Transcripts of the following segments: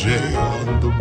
J on the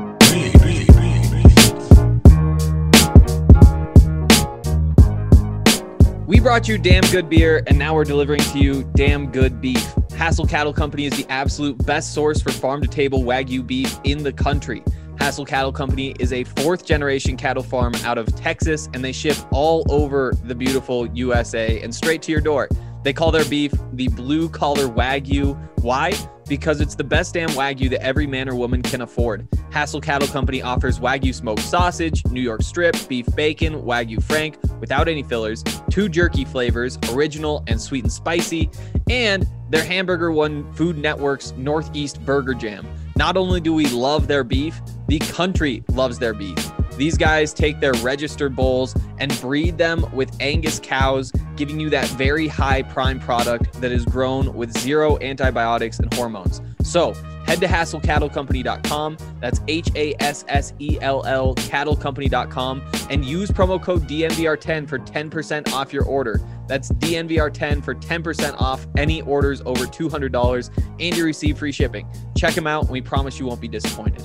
beat. We brought you damn good beer, and now we're delivering to you damn good beef. Hassel Cattle Company is the absolute best source for farm-to-table Wagyu beef in the country. Hassel Cattle Company is a fourth-generation cattle farm out of Texas, and they ship all over the beautiful USA and straight to your door. They call their beef the blue-collar Wagyu. Why? Because it's the best damn Wagyu that every man or woman can afford. Hassel Cattle Company offers Wagyu smoked sausage, New York strip, beef bacon, Wagyu frank, without any fillers, 2 jerky flavors, original and sweet and spicy, and their hamburger won Food Network's Northeast Burger Jam. Not only do we love their beef, the country loves their beef. These guys take their registered bulls and breed them with Angus cows, giving you that very high prime product that is grown with 0 antibiotics and hormones. So head to HassellCattleCompany.com. That's HASSELL cattlecompany.com and use promo code DNVR10 for 10% off your order. That's DNVR10 for 10% off any orders over $200 and you receive free shipping. Check them out and we promise you won't be disappointed.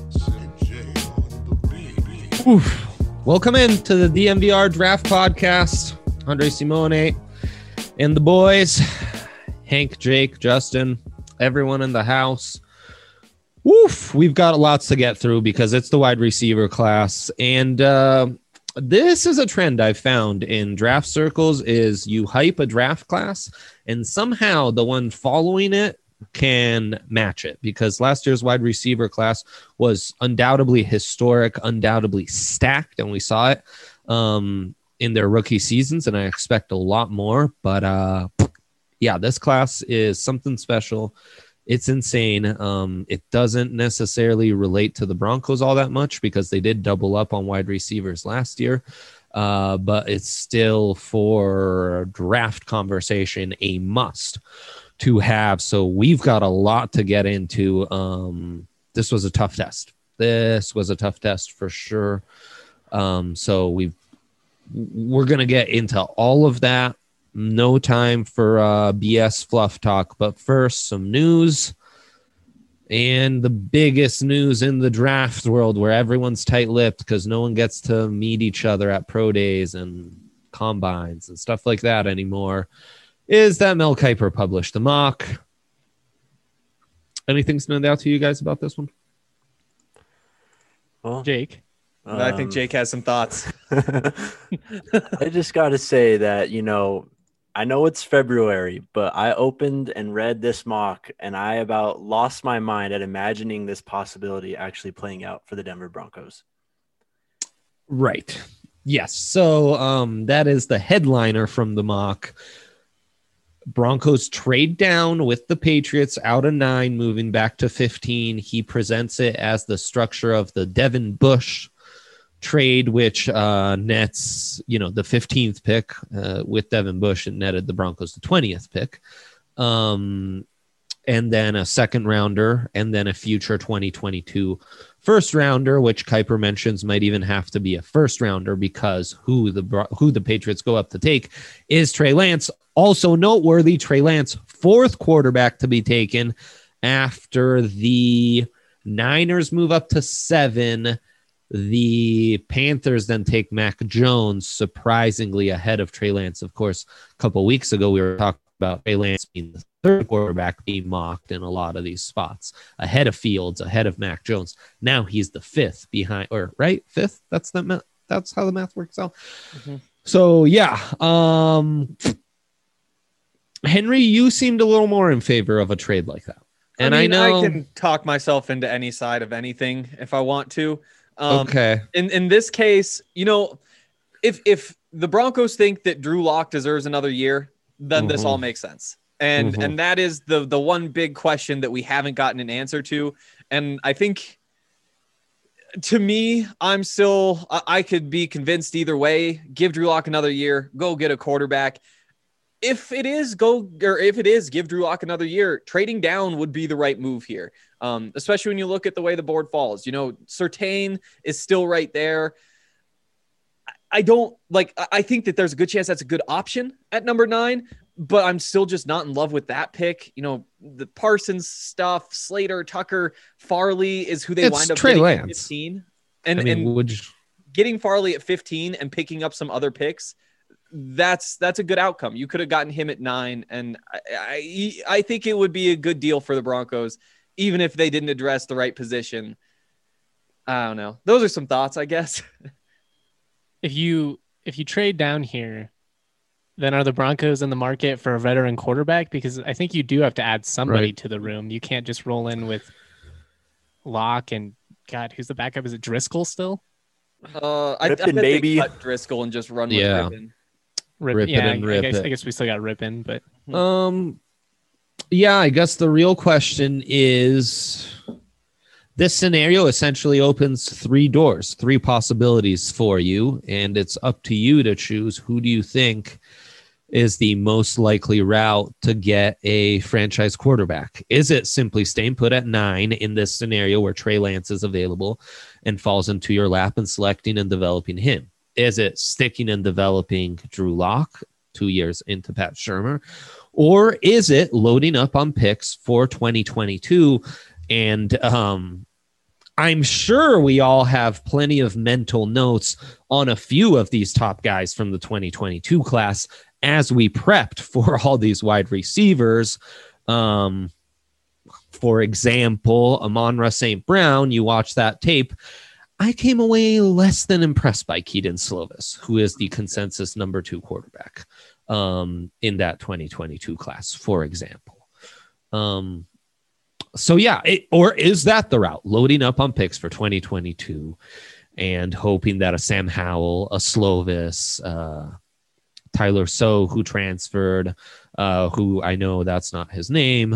Oof. Welcome into the DNVR Draft Podcast. Andre Simone and the boys, Hank, Jake, Justin, everyone in the house. Woof. We've got lots to get through because it's the wide receiver class. And this is a trend I've found in draft circles is you hype a draft class and somehow the one following it can match it, because last year's wide receiver class was undoubtedly historic, undoubtedly stacked, and we saw it in their rookie seasons, and I expect a lot more. But yeah, this class is something special. It's insane. It doesn't necessarily relate to the Broncos all that much because they did double up on wide receivers last year. But it's still, for draft conversation, a must to have. So we've got a lot to get into. This was a tough test. This was a tough test for sure. So we're going to get into all of that. No time for BS fluff talk, but first some news. And the biggest news in the draft world, where everyone's tight-lipped because no one gets to meet each other at pro days and combines and stuff like that anymore, is that Mel Kiper published the mock. Anything stand out to you guys about this one? Well, Jake? I think Jake has some thoughts. I just got to say that, I know it's February, but I opened and read this mock and I about lost my mind at imagining this possibility actually playing out for the Denver Broncos. Right. Yes. So that is the headliner from the mock. Broncos trade down with the Patriots out of 9, moving back to 15. He presents it as the structure of the Devin Bush trade, which nets, the 15th pick with Devin Bush, and netted the Broncos the 20th pick. And then a second rounder, and then a future 2022 first rounder, which Kiper mentions might even have to be a first rounder because who the Patriots go up to take is Trey Lance. Also noteworthy, Trey Lance, 4th quarterback to be taken after the Niners move up to 7. The Panthers then take Mac Jones, surprisingly ahead of Trey Lance. Of course, a couple weeks ago, we were talking about Trey Lance being the 3rd quarterback being mocked in a lot of these spots, ahead of Fields, ahead of Mac Jones. Now he's the 5th behind, or right? 5th? That's how the math works out. Mm-hmm. So, yeah. Henry, you seemed a little more in favor of a trade like that. And I know I can talk myself into any side of anything if I want to. Okay. In this case, if the Broncos think that Drew Lock deserves another year, then this all makes sense. And that is the one big question that we haven't gotten an answer to. And I think, to me, I could be convinced either way. Give Drew Lock another year, go get a quarterback. If it is give Drew Lock another year, trading down would be the right move here. Especially when you look at the way the board falls. Surtain is still right there. I think that there's a good chance that's a good option at number 9, but I'm still just not in love with that pick. You know, the Parsons stuff, Slater, Tucker, Farley is who they wind up Trey getting Lance. at 15. And Getting Farley at 15 and picking up some other picks, that's a good outcome. You could have gotten him at 9, and I think it would be a good deal for the Broncos, even if they didn't address the right position. I don't know. Those are some thoughts, I guess. If you trade down here, then are the Broncos in the market for a veteran quarterback? Because I think you do have to add somebody to the room. You can't just roll in with Locke and God, who's the backup? Is it Driscoll still? I bet they cut Driscoll and just run with Rippon. I guess we still got Rippon, but I guess the real question is, this scenario essentially opens 3 doors, 3 possibilities for you, and it's up to you to choose who do you think is the most likely route to get a franchise quarterback. Is it simply staying put at 9 in this scenario where Trey Lance is available and falls into your lap and selecting and developing him? Is it sticking and developing Drew Lock 2 years into Pat Shurmur? Or is it loading up on picks for 2022? And I'm sure we all have plenty of mental notes on a few of these top guys from the 2022 class as we prepped for all these wide receivers. For example, Amon-Ra St. Brown, you watch that tape. I came away less than impressed by Kedon Slovis, who is the consensus number 2 quarterback in that 2022 class, for example. Or is that the route? Loading up on picks for 2022 and hoping that a Sam Howell, a Slovis, Tyler So, who transferred, who I know that's not his name,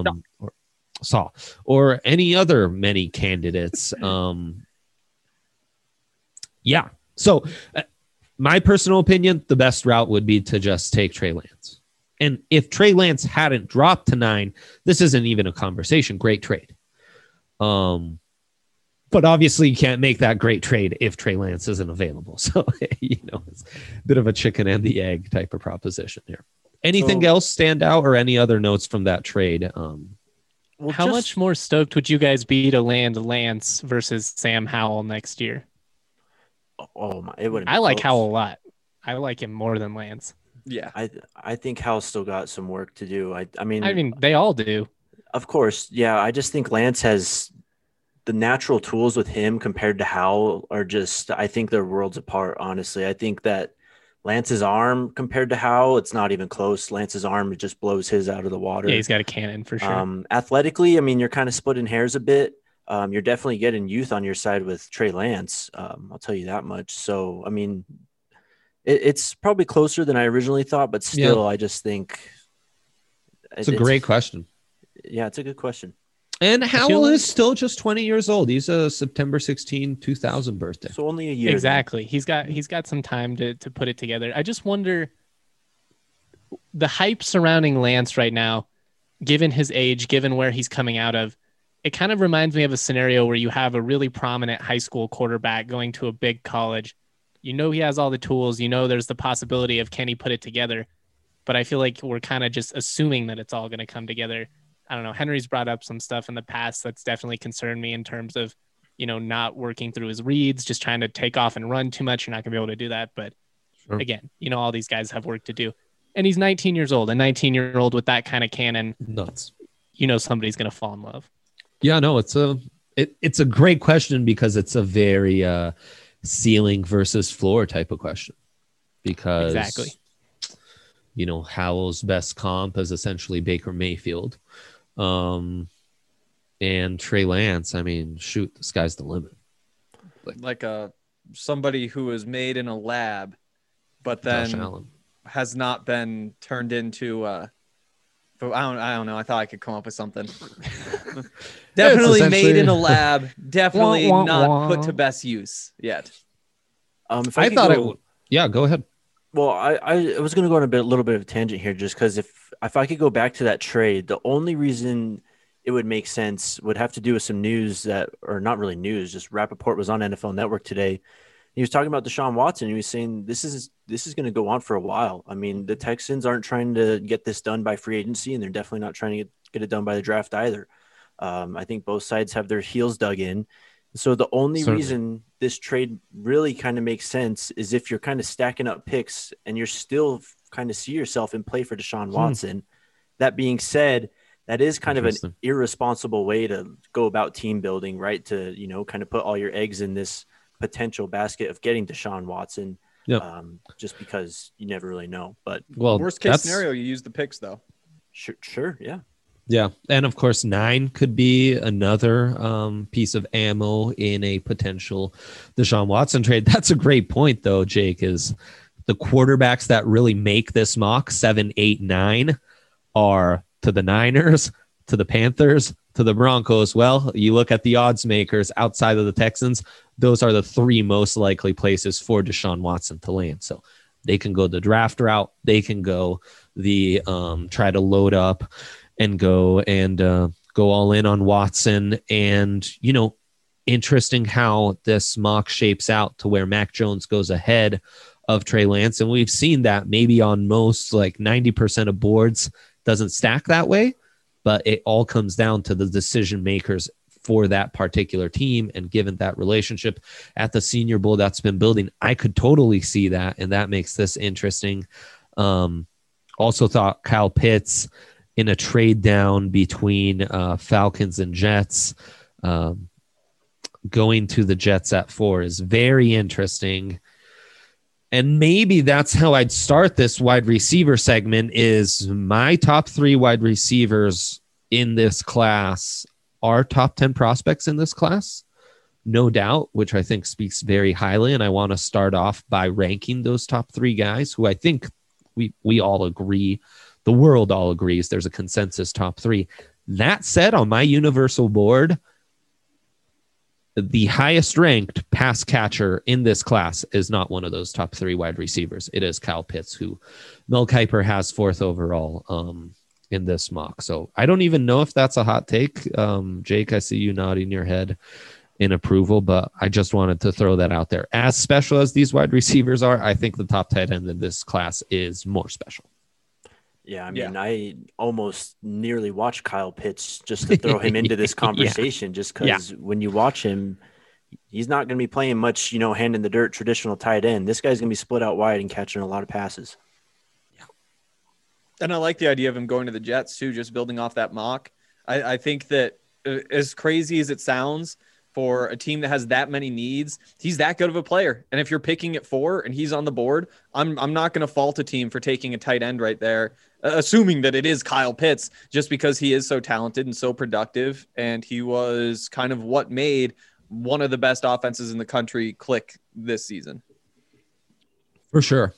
or any other many candidates. So my personal opinion, the best route would be to just take Trey Lance. And if Trey Lance hadn't dropped to 9, this isn't even a conversation. Great trade. But obviously you can't make that great trade if Trey Lance isn't available. So, it's a bit of a chicken and the egg type of proposition here. Anything else stand out or any other notes from that trade? How much more stoked would you guys be to land Lance versus Sam Howell next year? Oh my! It would. I like Howell a lot. I like him more than Lance. Yeah, I think Howell's still got some work to do. I mean, they all do. Of course, yeah. I just think Lance has the natural tools with him compared to Howell are just. I think they're worlds apart. Honestly, I think that Lance's arm compared to Howell, it's not even close. Lance's arm just blows his out of the water. Yeah, he's got a cannon for sure. Athletically, I mean, you're kind of splitting hairs a bit. You're definitely getting youth on your side with Trey Lance. I'll tell you that much. So, I mean, it's probably closer than I originally thought, but still, I just think it's a great question. Yeah, it's a good question. And Howell is still just 20 years old. He's a September 16, 2000 birthday. So only a year. Exactly. Then. He's got some time to put it together. I just wonder the hype surrounding Lance right now, given his age, given where he's coming out of. It kind of reminds me of a scenario where you have a really prominent high school quarterback going to a big college. You know he has all the tools. You know there's the possibility of can he put it together. But I feel like we're kind of just assuming that it's all going to come together. I don't know. Henry's brought up some stuff in the past that's definitely concerned me in terms of, not working through his reads, just trying to take off and run too much. You're not going to be able to do that. But again, all these guys have work to do. And he's 19 years old. A 19-year-old with that kind of cannon. Nuts. Somebody's going to fall in love. Yeah, no, it's a great question because it's a very ceiling versus floor type of question. Because exactly, Howell's best comp is essentially Baker Mayfield, and Trey Lance. I mean, shoot, the sky's the limit. Like somebody who was made in a lab, but then has not been turned into. But I don't know. I thought I could come up with something. Definitely made in a lab. Definitely not put to best use yet. Yeah, go ahead. Well, I was going to go on a little bit of a tangent here, just because if I could go back to that trade, the only reason it would make sense would have to do with some news or not really news. Just Rappaport was on NFL Network today, He was talking about Deshaun Watson. He was saying this is going to go on for a while. I mean, the Texans aren't trying to get this done by free agency, and they're definitely not trying to get it done by the draft either. I think both sides have their heels dug in. So the only reason this trade really kind of makes sense is if you're kind of stacking up picks and you're still kind of see yourself in play for Deshaun Watson. That being said, that is kind of an irresponsible way to go about team building, right? To, you know, kind of put all your eggs in this potential basket of getting Deshaun Watson, just because you never really know. But worst case scenario, you use the picks though. Sure. Yeah. Yeah. And of course, 9 could be another piece of ammo in a potential Deshaun Watson trade. That's a great point, though, Jake, is the quarterbacks that really make this mock 7, 8, 9 are to the Niners, to the Panthers, to the Broncos. Well, you look at the odds makers outside of the Texans, those are the 3 most likely places for Deshaun Watson to land. So they can go the draft route. They can go the try to load up and go all in on Watson. And, you know, interesting how this mock shapes out to where Mac Jones goes ahead of Trey Lance. And we've seen that maybe on most, like 90% of boards, doesn't stack that way, but it all comes down to the decision makers for that particular team. And given that relationship at the Senior Bowl that's been building, I could totally see that. And that makes this interesting. Also thought Kyle Pitts in a trade down between Falcons and Jets, going to the Jets at 4 is very interesting. And maybe that's how I'd start this wide receiver segment. Is my top 3 wide receivers in this class are top 10 prospects in this class, no doubt, which I think speaks very highly. And I want to start off by ranking those top 3 guys who I think we all agree, the world all agrees there's a consensus top 3. That said, on my universal board, the highest ranked pass catcher in this class is not one of those top 3 wide receivers. It is Kyle Pitts, who Mel Kiper has 4th overall in this mock. So I don't even know if that's a hot take. Jake, I see you nodding your head in approval, but I just wanted to throw that out there. As special as these wide receivers are, I think the top tight end in this class is more special. Yeah, I mean, I almost nearly watched Kyle Pitts just to throw him into this conversation, just because when you watch him, he's not going to be playing much, you know, hand in the dirt, traditional tight end. This guy's going to be split out wide and catching a lot of passes. Yeah. And I like the idea of him going to the Jets too, just building off that mock. I think that as crazy as it sounds, for a team that has that many needs, he's that good of a player. And if you're picking at 4 and he's on the board, I'm not going to fault a team for taking a tight end right there, assuming that it is Kyle Pitts, just because he is so talented and so productive. And he was kind of what made one of the best offenses in the country click this season. For sure.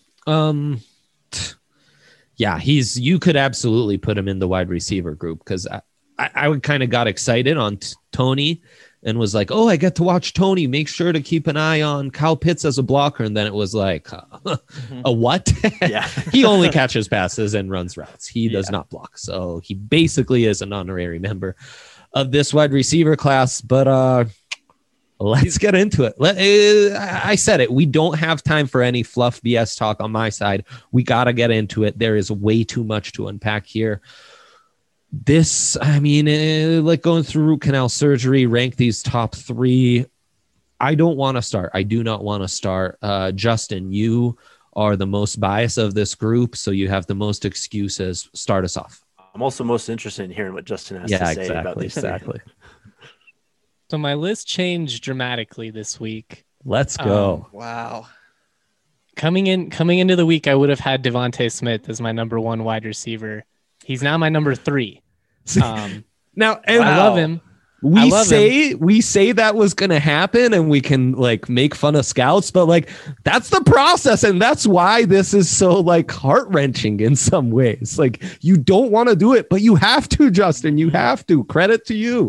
Yeah, you could absolutely put him in the wide receiver group, because I would kind of got excited on Tony and was like, oh, I get to watch Tony. Make sure to keep an eye on Kyle Pitts as a blocker. And then it was like, a what? Yeah. He only catches passes and runs routes. He does not block. So he basically is an honorary member of this wide receiver class. But let's get into it. I said it. We don't have time for any fluff BS talk on my side. We got to get into it. There is way too much to unpack here. This, I mean, like going through root canal surgery, rank these top 3. I don't want to start. I do not want to start. Justin, you are the most biased of this group, so you have the most excuses. Start us off. I'm also most interested in hearing what Justin has to say about this. Exactly. So my list changed dramatically this week. Let's go. Wow. Coming into the week, I would have had Devontae Smith as my number 1 wide receiver. He's now my number 3. Now, I love him. We say that was going to happen, and we can like make fun of scouts, but like that's the process, and that's why this is so like heart-wrenching in some ways. Like you don't want to do it, but you have to, Justin. You have to. Credit to you.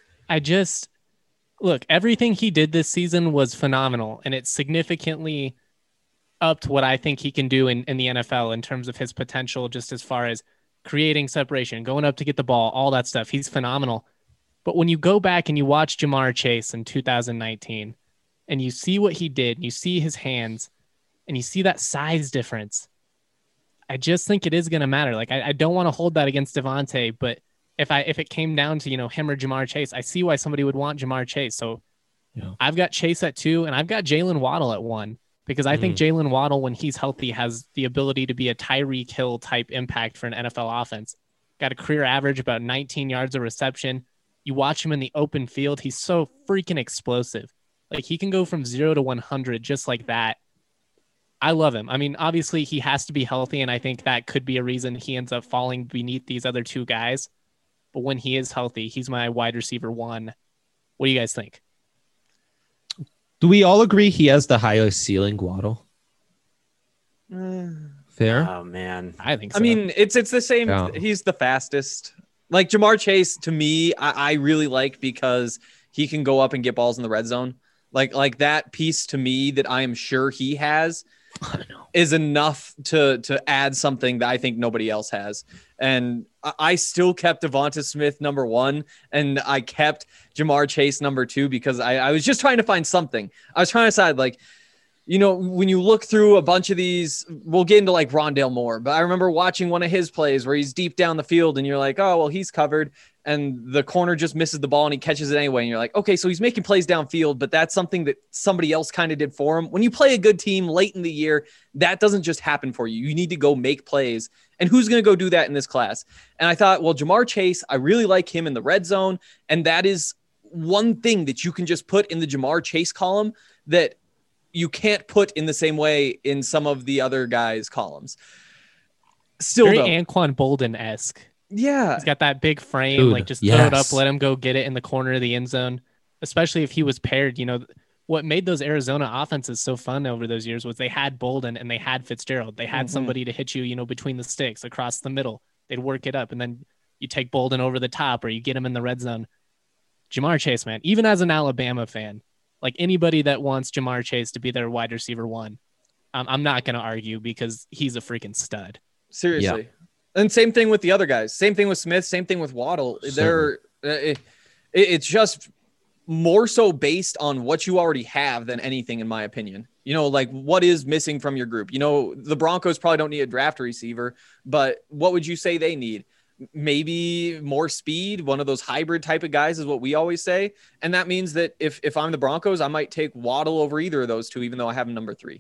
Look, everything he did this season was phenomenal, and it significantly upped what I think he can do in the NFL in terms of his potential, just as far as creating separation, going up to get the ball, all that stuff. He's phenomenal. But when you go back and you watch Jamar Chase in 2019, and you see what he did, and you see his hands, and you see that size difference, I just think it is going to matter. Like, I don't want to hold that against Devontae, but if it came down to, him or Jamar Chase, I see why somebody would want Jamar Chase. So I've got Chase at 2, and I've got Jalen Waddle at 1, because I think Jalen Waddle, when he's healthy, has the ability to be a Tyreek Hill type impact for an NFL offense. Got a career average about 19 yards of reception. You watch him in the open field, he's so freaking explosive. Like, he can go from 0 to 100 just like that. I love him. I mean, obviously he has to be healthy, and I think that could be a reason he ends up falling beneath these other 2 guys. But when he is healthy, he's my wide receiver 1. What do you guys think? Do we all agree he has the highest ceiling, Waddle? Fair? Oh, man. I think so. I mean, it's the same. Yeah. He's the fastest. Like, Jamar Chase, to me, I really like, because he can go up and get balls in the red zone. Like that piece to me that I am sure he has is enough to add something that I think nobody else has. And I still kept Devonta Smith number 1, and I kept Jamar Chase number 2, because I was just trying to find something. I was trying to decide, like, when you look through a bunch of these, we'll get into like Rondale Moore, but I remember watching one of his plays where he's deep down the field and you're like, oh, well, he's covered, and the corner just misses the ball and he catches it anyway. And you're like, okay, so he's making plays downfield, but that's something that somebody else kind of did for him. When you play a good team late in the year, that doesn't just happen for you. You need to go make plays. And who's going to go do that in this class? And I thought, well, Jamar Chase, I really like him in the red zone. And that is one thing that you can just put in the Jamar Chase column that you can't put in the same way in some of the other guys' columns. Still, very though, Anquan Bolden-esque. yeah, He's got that big frame, Dude, like just throw it up, yes. let him go get it in the corner of the end zone, especially if he was paired. What made those Arizona offenses so fun over those years was they had Bolden and they had Fitzgerald. They had somebody to hit you, between the sticks, across the middle. They'd work it up, and then you take Bolden over the top, or you get him in the red zone. Jamar Chase, man, even as an Alabama fan, like anybody that wants Jamar Chase to be their wide receiver 1, I'm not going to argue, because he's a freaking stud. seriously. Yeah. And same thing with the other guys. Same thing with Smith. Same thing with Waddle. It's just more so based on what you already have than anything, in my opinion. Like, what is missing from your group? The Broncos probably don't need a draft receiver, but what would you say they need? Maybe more speed. One of those hybrid type of guys is what we always say. And that means that if I'm the Broncos, I might take Waddle over either of those 2, even though I have him number 3.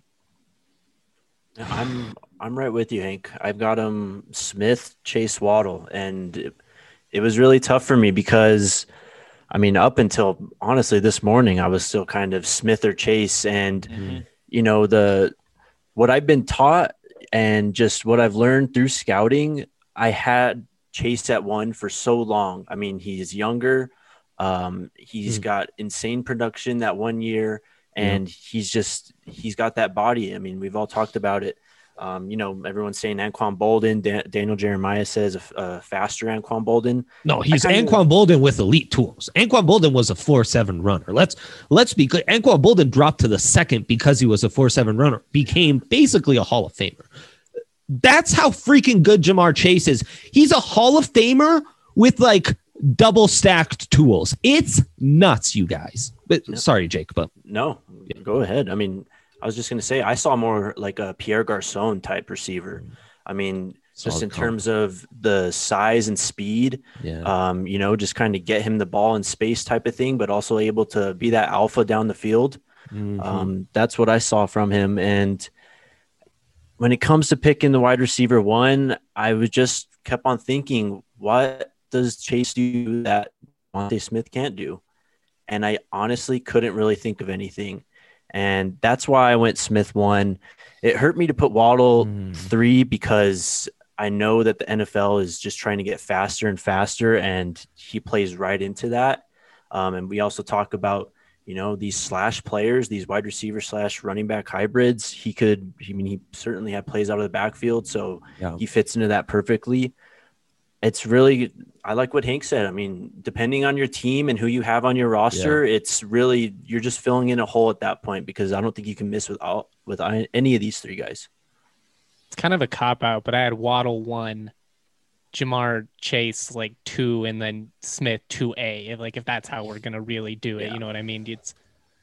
I'm right with you, Hank. I've got him Smith, Chase, Waddle, and it was really tough for me because, I mean, up until honestly this morning, I was still kind of Smith or Chase, and what I've been taught and just what I've learned through scouting, I had Chase at 1 for so long. I mean, he's younger, he's got insane production that 1 year. And he's got that body. I mean, we've all talked about it. Everyone's saying Anquan Bolden. Daniel Jeremiah says a faster Anquan Bolden. No, he's Anquan Bolden with elite tools. Anquan Bolden was a 4.7 runner. Let's be clear. Anquan Bolden dropped to the second because he was a 4.7 runner, became basically a Hall of Famer. That's how freaking good Jamar Chase is. He's a Hall of Famer with like double stacked tools. It's nuts, you guys. But sorry, Jake, but no, go ahead. I mean, I was just going to say, I saw more like a Pierre Garçon type receiver. I mean, just in terms of the size and speed, just kind of get him the ball in space type of thing, but also able to be that alpha down the field. That's what I saw from him. And when it comes to picking the wide receiver 1, I was just kept on thinking, what does Chase do that Devontae Smith can't do? And I honestly couldn't really think of anything. And that's why I went Smith 1. It hurt me to put Waddle 3 because I know that the NFL is just trying to get faster and faster, and he plays right into that. And we also talk about, these slash players, these wide receiver / running back hybrids. He certainly had plays out of the backfield, so he fits into that perfectly. It's really, I like what Hank said. I mean, depending on your team and who you have on your roster, it's really, you're just filling in a hole at that point, because I don't think you can miss with any of these 3 guys. It's kind of a cop out, but I had Waddle 1, Jamar Chase 2, and then Smith 2A. If that's how we're gonna really do it, you know what I mean?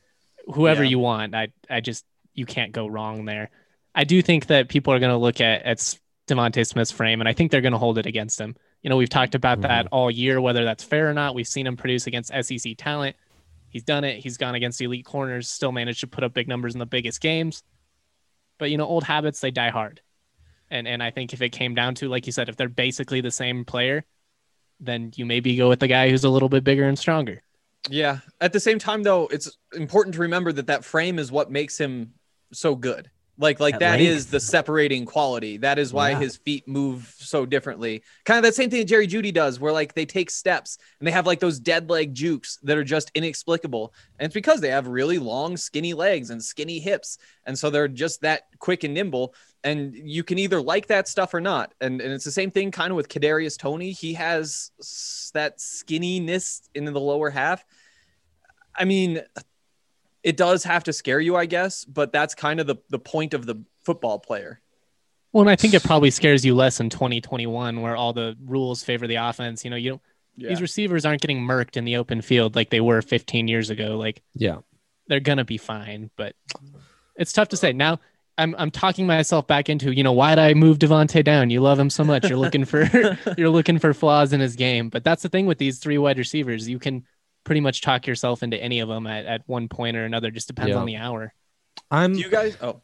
whoever Yeah. you want. I just, you can't go wrong there. I do think that people are going to look at Devontae Smith's frame, and I think they're going to hold it against him. You know, we've talked about that all year, whether that's fair or not. We've seen him produce against SEC talent. He's done it. He's gone against elite corners, still managed to put up big numbers in the biggest games. But, you know, old habits, they die hard. And I think if it came down to, like you said, if they're basically the same player, then you maybe go with the guy who's a little bit bigger and stronger. Yeah. At the same time, though, it's important to remember that frame is what makes him so good. Like At that length. is the separating quality. That is why Yeah. his feet move so differently. Kind of that same thing that Jerry Jeudy does, where like they take steps and they have like those dead leg jukes that are just inexplicable. And it's because they have really long, skinny legs and skinny hips. And so they're just that quick and nimble. And you can either like that stuff or not. And it's the same thing kind of with Kadarius Toney. He has that skinniness in the lower half. I mean, it does have to scare you, I guess, but that's kind of the point of the football player. Well, and I think it probably scares you less in 2021, where all the rules favor the offense. You know, these receivers aren't getting murked in the open field like they were 15 years ago. Like, Yeah. they're gonna be fine, but it's tough to say. Now, I'm talking myself back into, you know, why'd I move Devontae down? You love him so much. You're looking for flaws in his game. But that's the thing with these three wide receivers. You can pretty much talk yourself into any of them at one point or another. Just depends on the hour. Do you guys? Oh,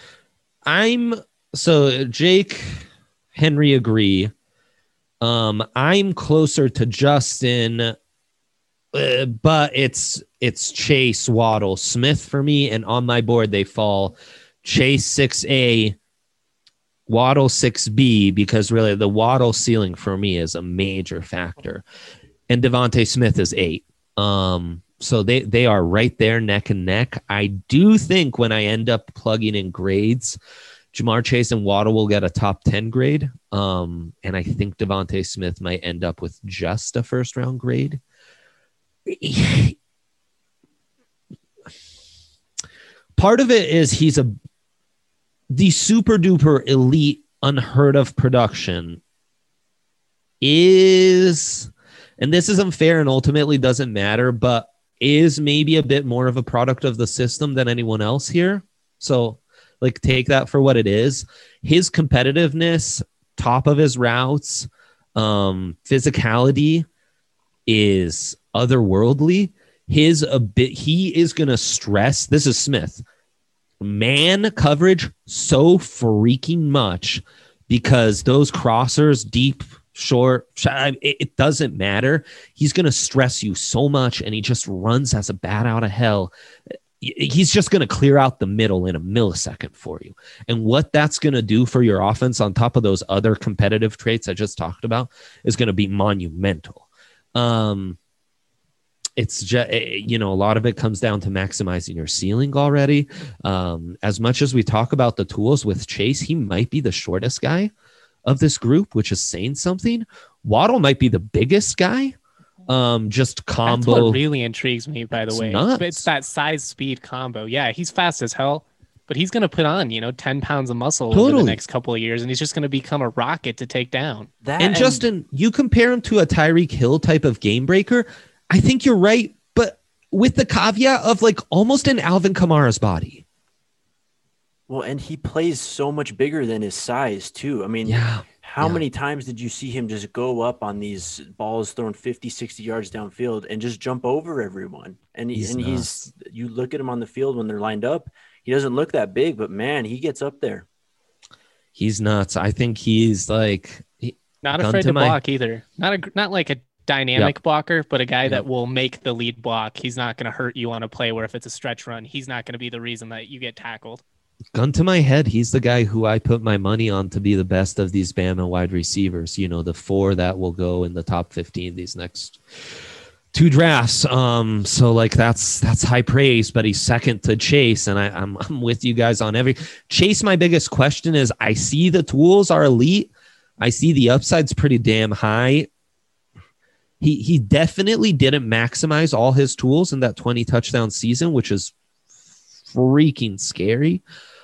So Jake, Henry agree. I'm closer to Justin, but it's Chase, Waddle, Smith for me, and on my board they fall Chase 6A, Waddle 6B, because really the Waddle ceiling for me is a major factor, and Devontae Smith is 8. So they are right there neck and neck. I do think when I end up plugging in grades, Jamar Chase and Waddle will get a top 10 grade. And I think Devontae Smith might end up with just a first round grade. Part of it is he's the super duper elite, unheard of production is, and this is unfair and ultimately doesn't matter, but is maybe a bit more of a product of the system than anyone else here. So like, take that for what it is. His competitiveness, top of his routes, physicality is otherworldly. He is going to stress. This is Smith. Man coverage so freaking much because those crossers, deep, short, it doesn't matter. He's going to stress you so much, and he just runs as a bat out of hell. He's just going to clear out the middle in a millisecond for you. And what that's going to do for your offense on top of those other competitive traits I just talked about is going to be monumental. It's just, a lot of it comes down to maximizing your ceiling already. As much as we talk about the tools with Chase, he might be the shortest guy of this group, which is saying something. Waddle might be the biggest guy. Just combo. That's what really intrigues me, by the way. Nuts. It's that size speed combo. Yeah, he's fast as hell, but he's going to put on, 10 pounds of muscle over the next couple of years, and he's just going to become a rocket to take down. And Justin, you compare him to a Tyreek Hill type of game breaker. I think you're right, but with the caveat of like almost an Alvin Kamara's body. Well, and he plays so much bigger than his size too. I mean, Yeah. How many times did you see him just go up on these balls thrown 50, 60 yards downfield and just jump over everyone? And you look at him on the field when they're lined up, he doesn't look that big, but man, he gets up there. He's nuts. I think he's like not afraid to block either. Not like a dynamic blocker, but a guy that will make the lead block. He's not going to hurt you on a play where if it's a stretch run, he's not going to be the reason that you get tackled. Gun to my head, he's the guy who I put my money on to be the best of these Bama wide receivers. The 4 that will go in the top 15 these next 2 drafts. So like that's high praise, but he's second to Chase, and I'm with you guys on every Chase. My biggest question is I see the tools are elite. I see the upside's pretty damn high. He definitely didn't maximize all his tools in that 20 touchdown season, which is freaking scary.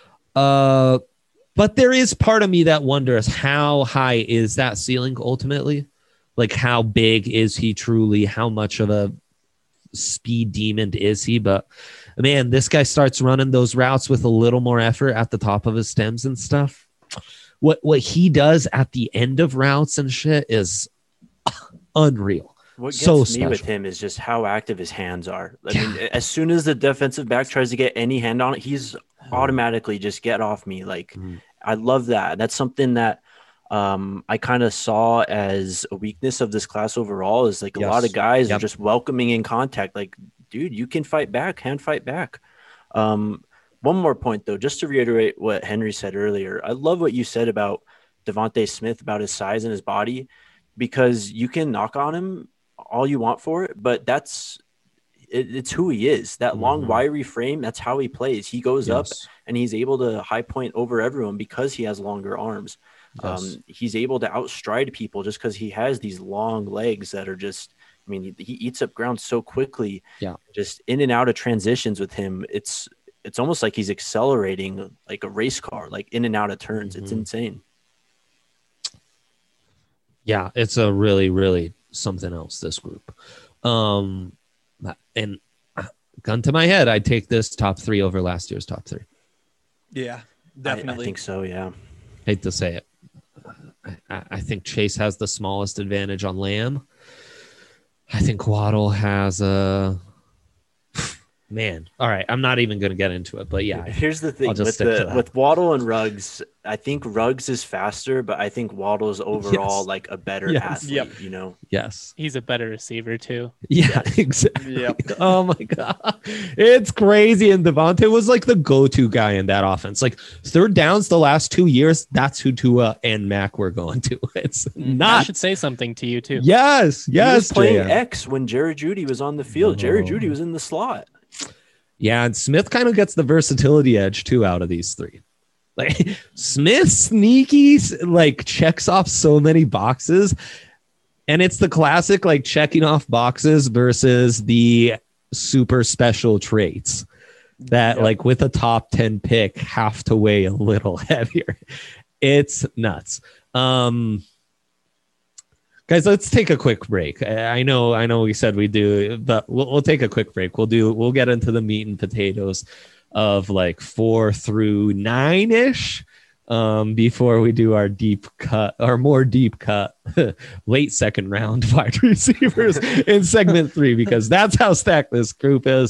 But there is part of me that wonders how high is that ceiling ultimately? Like how big is he truly? How much of a speed demon is he? But man, this guy starts running those routes with a little more effort at the top of his stems and stuff. What he does at the end of routes and shit is unreal. What gets So me special. with him is just how active his hands are. I mean, as soon as the defensive back tries to get any hand on it, he's automatically just get off me. Like, I love that. That's something that I kind of saw as a weakness of this class overall, is like a lot of guys are just welcoming in contact. Like, dude, you can fight back, hand fight back. One more point, though, just to reiterate what Henry said earlier. I love what you said about Devontae Smith, about his size and his body, because you can knock on him all you want for it, but it's who he is. That long, wiry frame, that's how he plays. He goes up and he's able to high point over everyone because he has longer arms. He's able to outstride people just because he has these long legs that are just, I mean, he eats up ground so quickly. Yeah. Just in and out of transitions with him. It's almost like he's accelerating like a race car, like in and out of turns. It's insane. Yeah, it's a really, really something else, this group. And gun to my head, I'd take this top 3 over last year's top 3. Yeah, definitely. I think so, yeah. Hate to say it. I think Chase has the smallest advantage on Lamb. I think Waddle has a... Man, all right. I'm not even going to get into it, but yeah. Here's the thing with Waddle and Ruggs. I think Ruggs is faster, but I think Waddle is overall like a better athlete. You know. Yes, he's a better receiver too. Yeah, exactly. Yep. Oh my god, it's crazy. And Devontae was like the go-to guy in that offense. Like third downs the last 2 years, that's who Tua and Mac were going to. It's not. I should say something to you too. Yes. He was playing X when Jerry Jeudy was on the field. Jerry Jeudy was in the slot. Yeah, and Smith kind of gets the versatility edge too out of these 3. Like Smith sneaky, like checks off so many boxes, and it's the classic like checking off boxes versus the super special traits that like with a top 10 pick have to weigh a little heavier. It's nuts. Guys, let's take a quick break. I know we said we do, but we'll take a quick break. We'll get into the meat and potatoes of like 4 through 9-ish before we do our more deep cut late second round wide receivers in segment 3, because that's how stacked this group is.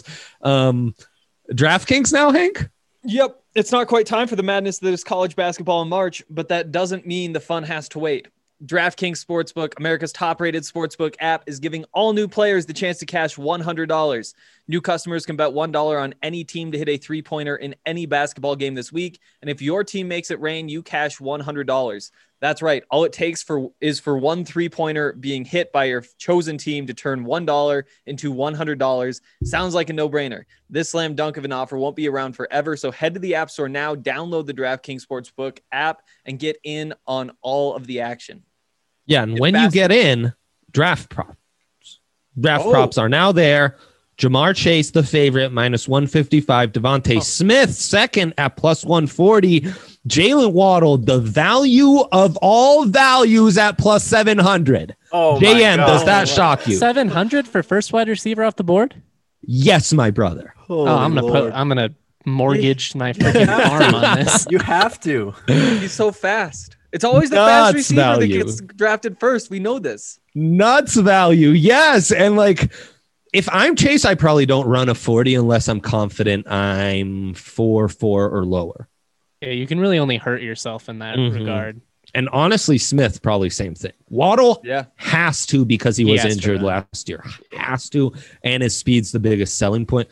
DraftKings now, Hank? Yep. It's not quite time for the madness that is college basketball in March, but that doesn't mean the fun has to wait. DraftKings Sportsbook, America's top-rated sportsbook app, is giving all new players the chance to cash $100. New customers can bet $1 on any team to hit a three-pointer in any basketball game this week, and if your team makes it rain, you cash $100. That's right. All it takes is for one three-pointer being hit by your chosen team to turn $1 into $100. Sounds like a no-brainer. This slam dunk of an offer won't be around forever, so head to the App Store now, download the DraftKings Sportsbook app, and get in on all of the action. Yeah, and when you get in, draft props. Props are now there. Jamar Chase, the favorite, minus 155. Devontae Smith, second at plus 140. Jalen Waddle, the value of all values, at plus 700. Oh, JM, does that shock you? 700 for first wide receiver off the board? Yes, my brother. I'm gonna mortgage my freaking arm on this. You have to. He's so fast. It's always the fast receiver that gets drafted first. We know this. Nuts value. Yes. And like, if I'm Chase, I probably don't run a 40 unless I'm confident I'm 4.4 or lower. Yeah, you can really only hurt yourself in that regard. And honestly, Smith, probably same thing. Waddle has to, because he was injured last year. Has to. And his speed's the biggest selling point.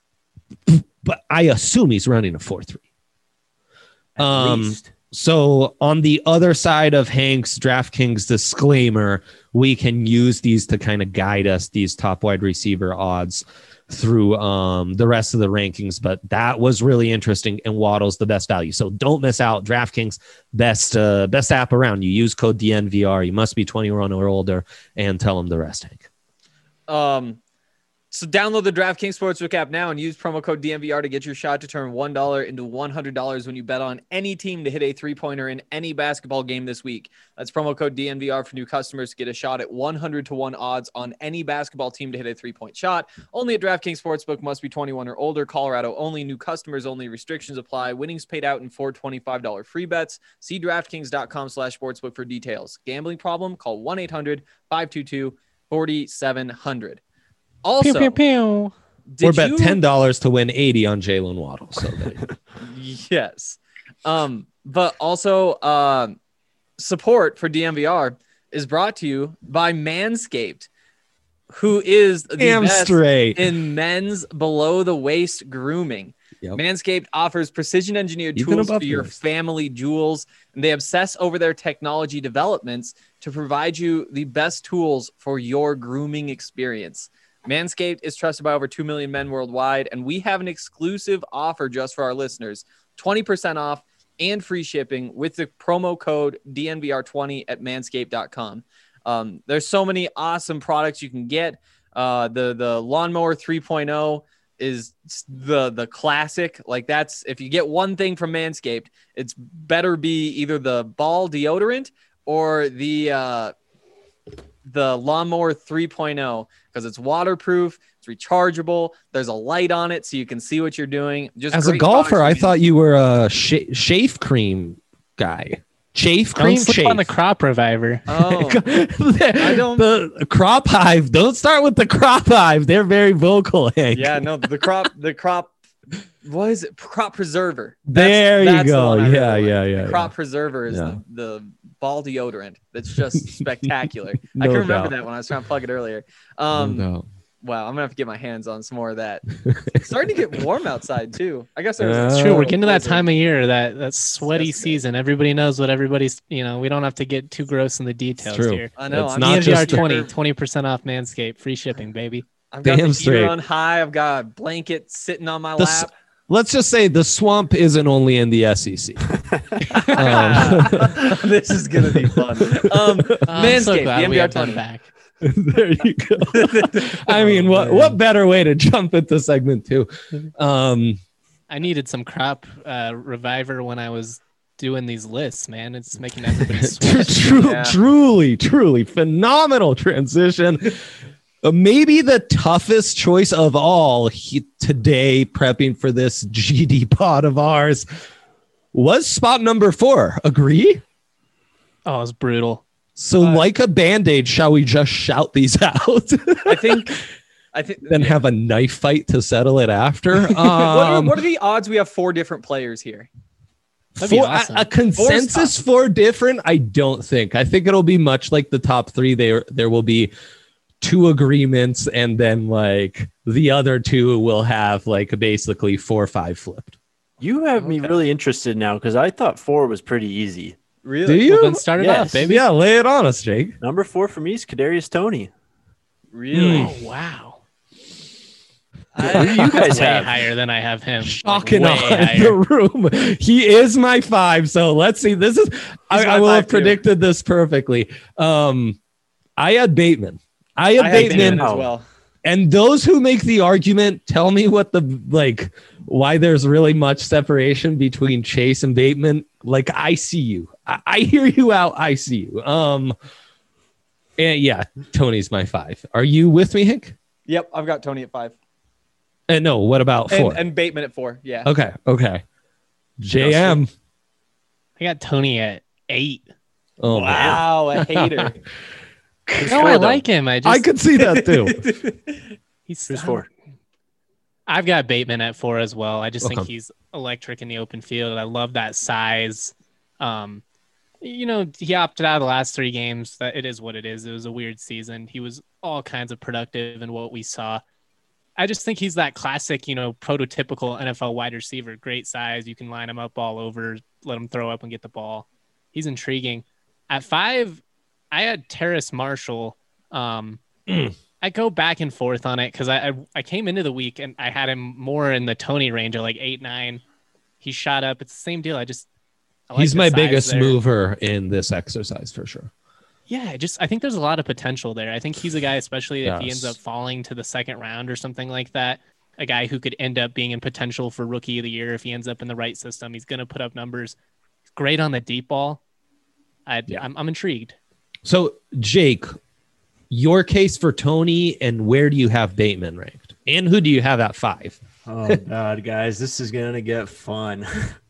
But I assume he's running a 4.3. At least. So on the other side of Hank's DraftKings disclaimer, we can use these to kind of guide us, these top wide receiver odds, through the rest of the rankings. But that was really interesting, and Waddle's the best value. So don't miss out. DraftKings, best app around. You use code DNVR. You must be 21 or older, and tell them the rest, Hank. So download the DraftKings Sportsbook app now and use promo code DNVR to get your shot to turn $1 into $100 when you bet on any team to hit a three-pointer in any basketball game this week. That's promo code DNVR for new customers to get a shot at 100-1 odds on any basketball team to hit a three-point shot. Only at DraftKings Sportsbook, must be 21 or older. Colorado only. New customers only. Restrictions apply. Winnings paid out in $4 $25 free bets. See DraftKings.com/sportsbook for details. Gambling problem? Call 1-800-522-4700. Also, Pew, pew, pew. Or bet $10 to win 80 on Jalen Waddle. So yes. But also support for DNVR is brought to you by Manscaped, who is the best straight in men's below the waist grooming. Yep. Manscaped offers precision engineered Even tools above for your the waist. family jewels, and they obsess over their technology developments to provide you the best tools for your grooming experience. Manscaped is trusted by over 2 million men worldwide, and we have an exclusive offer just for our listeners, 20% off and free shipping with the promo code DNVR20 at manscaped.com. There's so many awesome products you can get. The Lawnmower 3.0 is the classic. Like, that's, if you get one thing from Manscaped, it's better be either the ball deodorant or the Lawnmower 3.0, because it's waterproof, it's rechargeable, there's a light on it so you can see what you're doing. Just as a great golfer, I products. thought you were a shave cream guy. Shave Don't cream, sleep shave. on the crop reviver. Oh, the crop hive. Don't start with the crop hive. They're very vocal, Hank. yeah, no, the crop, what is it? Crop preserver. There you the go. one I Yeah, really yeah, like. yeah, The crop preserver is Yeah. the ball deodorant. That's just spectacular. No I can remember doubt. that when I was trying to plug it earlier. No. Wow, I'm gonna have to get my hands on some more of that. It's starting to get warm outside too. I guess there's It's true. We're getting to that time of year, that sweaty Disgusting. season. Everybody knows what everybody's, we don't have to get too gross in the details true. here. I know. It's I'm not DNVR just 20% off Manscaped, free shipping, baby. I've got Damn the straight. heater on high. I've got a blanket sitting on my The s- lap. Let's just say the swamp isn't only in the SEC. This is gonna be fun. I'm so Manscaped, glad the we NBR have them 20. back. There you go. I mean, what better way to jump into segment 2? I needed some crop reviver when I was doing these lists, man. It's making everybody sweat. Yeah. Truly phenomenal transition. Maybe the toughest choice of all today, prepping for this GD pod of ours, was spot number 4. Agree? Oh, it's brutal. So, like a band-aid, shall we just shout these out? I think. Then have a knife fight to settle it after. What are the odds we have 4 different players here? That'd be For awesome. a consensus 4 different, I don't think. I think it'll be much like the top 3. There will be 2 agreements, and then like the other 2 will have like basically 4 or 5 flipped. You have me really interested now because I thought 4 was pretty easy. Really? Do you? Well, then start it Yes. off, baby. Yeah, lay it on us, Jake. Number 4 for me is Kadarius Toney. Really? Oh, wow. What do you guys way have? higher than I have him. Shocking Way on higher. the room. He is my 5. So let's see. This is I my will 5 have too. predicted this perfectly. I had Bateman. I had Bateman. Bateman as Oh. well. And those who make the argument, tell me what why there's really much separation between Chase and Bateman. Like, I see you. I hear you out. I see you. And yeah, Tony's my 5. Are you with me, Hank? Yep, I've got Tony at 5. And no, what about 4? And Bateman at 4. Yeah. Okay. JM. I got Tony at 8. Oh, man. Wow, a hater. No, I like him. I could see that too. He's Who's 4? I've got Bateman at 4 as well. I just think Okay. he's electric in the open field. I love that size. He opted out of the last 3 games. That it is what it is. It was a weird season. He was all kinds of productive in what we saw. I just think he's that classic, prototypical NFL wide receiver. Great size. You can line him up all over, let him throw up and get the ball. He's intriguing. At 5, I had Terrace Marshall. I go back and forth on it because I came into the week and I had him more in the Tony range of like 8, 9. He shot up. It's the same deal. I like He's the my size biggest there. mover in this exercise for sure. Yeah, I think there's a lot of potential there. I think he's a guy, especially if he ends Yes. up falling to the second round or something like that, a guy who could end up being in potential for rookie of the year if he ends up in the right system. He's going to put up numbers. He's great on the deep ball. Yeah. I'm intrigued. So, Jake, your case for Tony, and where do you have Bateman ranked? And who do you have at 5? Oh God, guys, this is gonna get fun.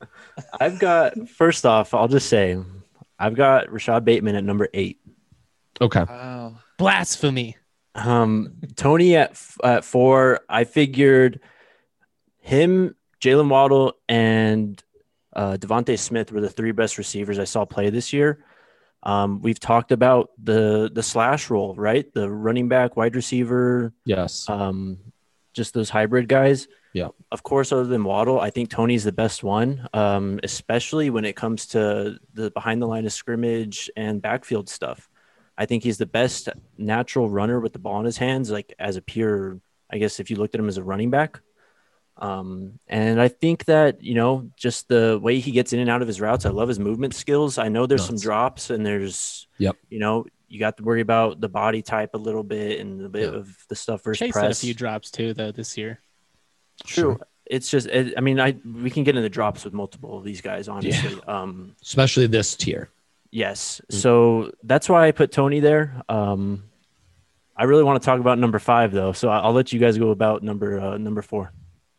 First off, I'll just say I've got Rashad Bateman at number 8. Okay. Wow. Blasphemy. Tony at 4. I figured him, Jalen Waddle, and Devontae Smith were the 3 best receivers I saw play this year. We've talked about the slash role, right? The running back, wide receiver, Yes. just those hybrid guys. Yeah. Of course, other than Waddle, I think Tony's the best one, especially when it comes to the behind the line of scrimmage and backfield stuff. I think he's the best natural runner with the ball in his hands, like as a pure, I guess, if you looked at him as a running back. And I think that, just the way he gets in and out of his routes, I love his movement skills. I know there's some drops and there's, you got to worry about the body type a little bit and a bit of the stuff versus Chase press. had a few drops too, though, this year. True. Sure. It's just, we can get into drops with multiple of these guys, honestly. Yeah. Especially this tier. Yes. So that's why I put Tony there. I really want to talk about number 5 though. So I'll let you guys go about number 4.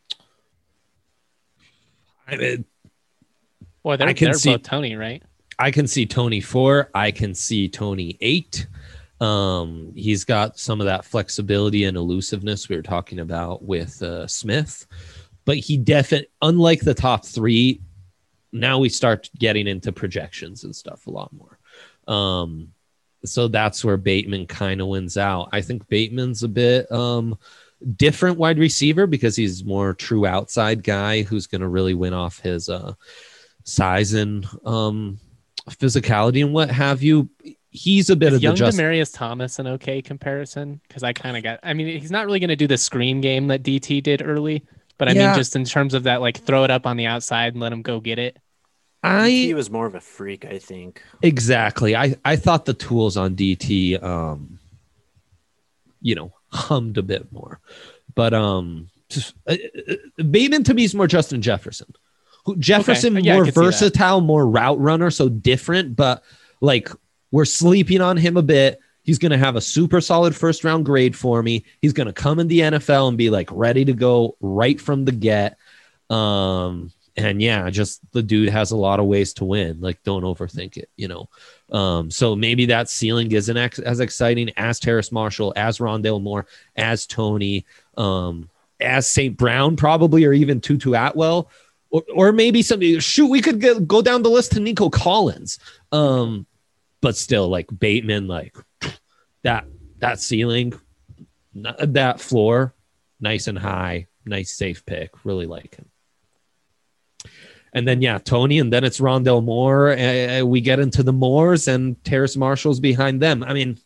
Boy, they're both Tony, right? I can see Tony 4. I can see Tony 8. He's got some of that flexibility and elusiveness we were talking about with Smith, but he definitely, unlike the top 3, now we start getting into projections and stuff a lot more. So that's where Bateman kind of wins out. I think Bateman's a bit different wide receiver because he's more true outside guy who's going to really win off his size and physicality and what have you. He's a bit of young the Demaryius Thomas an okay comparison because he's not really going to do the screen game that DT did early, but I mean just in terms of that, like throw it up on the outside and let him go get it. DT was more of a freak, I think. Exactly. I thought the tools on DT hummed a bit more, but Bateman to me is more Justin Jefferson. Jefferson more versatile, more route runner, so different, but like we're sleeping on him a bit. He's going to have a super solid first round grade for me. He's going to come in the NFL and be like ready to go right from the get. And yeah, just the dude has a lot of ways to win. Like, don't overthink it, So maybe that ceiling isn't as exciting as Terrace Marshall, as Rondale Moore, as Tony, as St. Brown, probably, or even Tutu Atwell, or maybe somebody. Shoot, we could go down the list to Nico Collins. But still, like Bateman, like that ceiling, that floor, nice and high, nice safe pick. Really like him. And then, Tony, and then it's Rondale Moore. We get into the Moores and Terrace Marshall's behind them. I mean,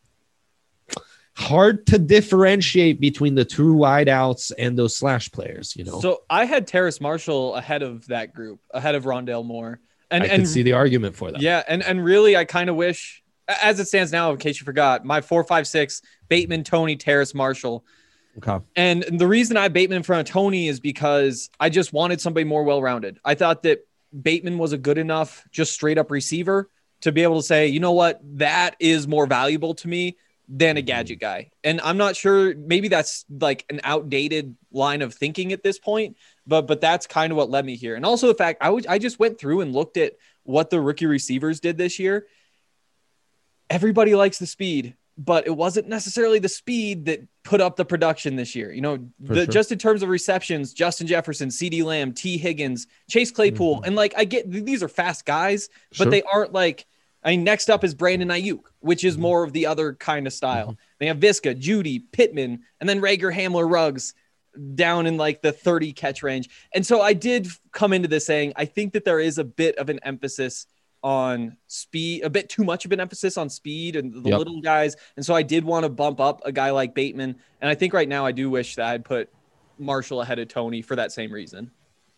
hard to differentiate between the true wideouts and those slash players, So I had Terrace Marshall ahead of that group, ahead of Rondale Moore. And I can see the argument for that. Yeah, and really, I kind of wish, as it stands now, in case you forgot, my 4, 5, 6, Bateman, Tony, Terrace Marshall. Okay. And the reason I have Bateman in front of Tony is because I just wanted somebody more well-rounded. I thought that Bateman was a good enough, just straight up receiver to be able to say, you know what, that is more valuable to me than a gadget guy. And I'm not sure, maybe that's like an outdated line of thinking at this point, but that's kind of what led me here. And also the fact I just went through and looked at what the rookie receivers did this year. Everybody likes the speed, but it wasn't necessarily the speed that put up the production this year. Just in terms of receptions, Justin Jefferson, CeeDee Lamb, T. Higgins, Chase Claypool. And like, I get these are fast guys, but they aren't like, next up is Brandon Ayuk, which is more of the other kind of style. They have Visca, Judy, Pittman, and then Rager, Hamler, Ruggs down in like the 30 catch range. And so I did come into this saying, I think that there is a bit of an emphasis on speed, a bit too much of an emphasis on speed and the little guys. And so I did want to bump up a guy like Bateman. And I think right now I do wish that I'd put Marshall ahead of Tony for that same reason.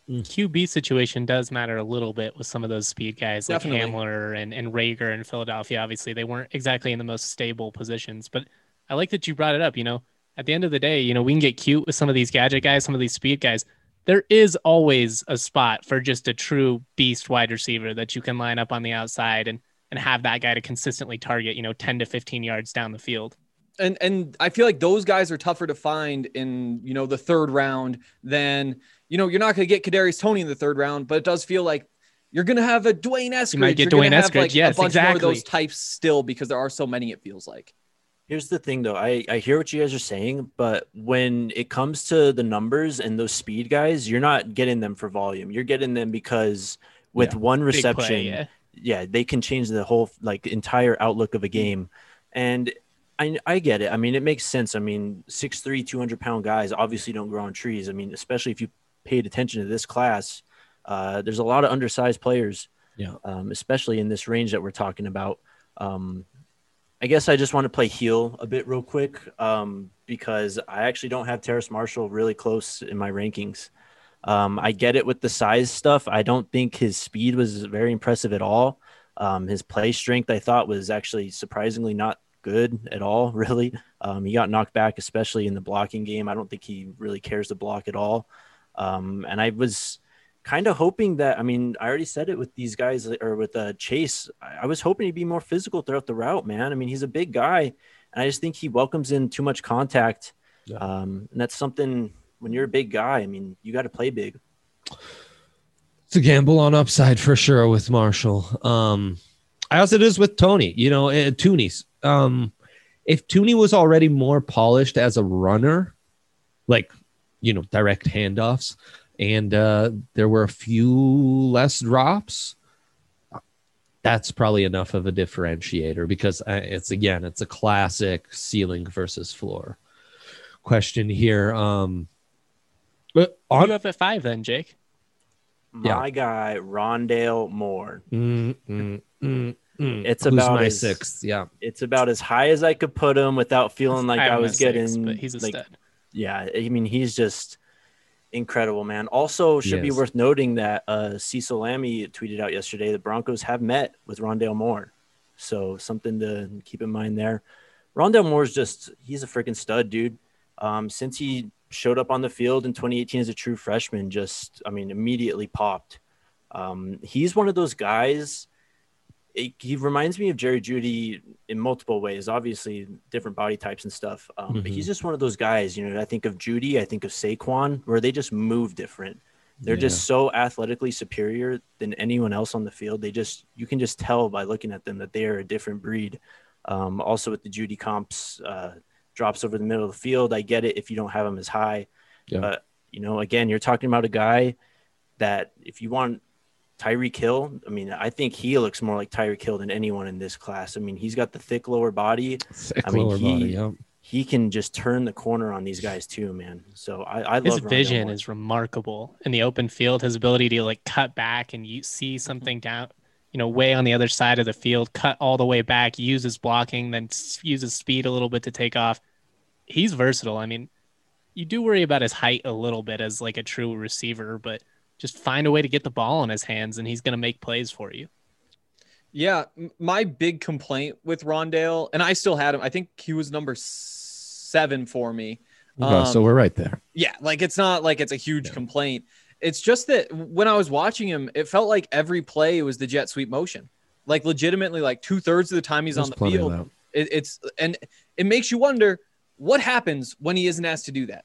QB situation does matter a little bit with some of those speed guys like Definitely. Hamler and Rager in Philadelphia. Obviously, they weren't exactly in the most stable positions, but I like that you brought it up. At the end of the day, we can get cute with some of these gadget guys, some of these speed guys. There is always a spot for just a true beast wide receiver that you can line up on the outside and have that guy to consistently target, 10 to 15 yards down the field. And I feel like those guys are tougher to find in, the third round than, you're not going to get Kadarius Toney in the third round, but it does feel like you're going to have a Dwayne Eskridge. You might get You're Dwayne gonna have, Eskridge. Yes, a bunch exactly. more of those types still because there are so many, it feels like. Here's the thing, though. I hear what you guys are saying, but when it comes to the numbers and those speed guys, you're not getting them for volume. You're getting them because with one Big reception, play, yeah, they can change the whole entire outlook of a game. And I get it. I mean, it makes sense. I mean, 6'3", 200-pound guys obviously don't grow on trees. I mean, especially if you paid attention to this class, there's a lot of undersized players, especially in this range that we're talking about. I guess I just want to play heel a bit real quick because I actually don't have Terrace Marshall really close in my rankings. I get it with the size stuff. I don't think his speed was very impressive at all. His play strength, I thought, was actually surprisingly not good at all, really. He got knocked back, especially in the blocking game. I don't think he really cares to block at all. And I was kind of hoping that, I already said it with these guys or with Chase. I was hoping he'd be more physical throughout the route, man. I mean, he's a big guy, and I just think he welcomes in too much contact. Yeah. And that's something when you're a big guy, you got to play big. It's a gamble on upside for sure with Marshall. As it is with Toney, Tooney's. If Toney was already more polished as a runner, like, direct handoffs, and there were a few less drops, that's probably enough of a differentiator because it's a classic ceiling versus floor question here. But you up at 5 then, Jake? My guy, Rondale Moore. It's Who's about my 6th. Yeah, it's about as high as I could put him without feeling like I was getting. But he's a stud. Yeah, he's just incredible, man. Also, should be worth noting that Cecil Lammy tweeted out yesterday the Broncos have met with Rondale Moore, so something to keep in mind there. Rondale Moore's he's a freaking stud, dude. Since he showed up on the field in 2018 as a true freshman, immediately popped. He's one of those guys. He reminds me of Jerry Jeudy in multiple ways, obviously different body types and stuff. But he's just one of those guys, I think of Jeudy, I think of Saquon, where they just move different. They're just so athletically superior than anyone else on the field. You can just tell by looking at them that they are a different breed. Also with the Jeudy comps, drops over the middle of the field. I get it if you don't have him as high. Yeah. But, again, you're talking about a guy that if you want Tyreek Hill, I think he looks more like Tyreek Hill than anyone in this class. He's got the thick lower body. He can just turn the corner on these guys too, man. So I love his vision is remarkable in the open field. His ability to cut back and you see something down, way on the other side of the field, cut all the way back, uses blocking, then uses speed a little bit to take off. He's versatile. You do worry about his height a little bit as a true receiver, but just find a way to get the ball in his hands and he's going to make plays for you. Yeah. My big complaint with Rondale, and I still had him, I think he was number 7 for me. So we're right there. Yeah. It's not like it's a huge complaint. It's just that when I was watching him, it felt like every play was the jet sweep motion. Legitimately, 2/3 of the time he's on the field. It makes you wonder what happens when he isn't asked to do that.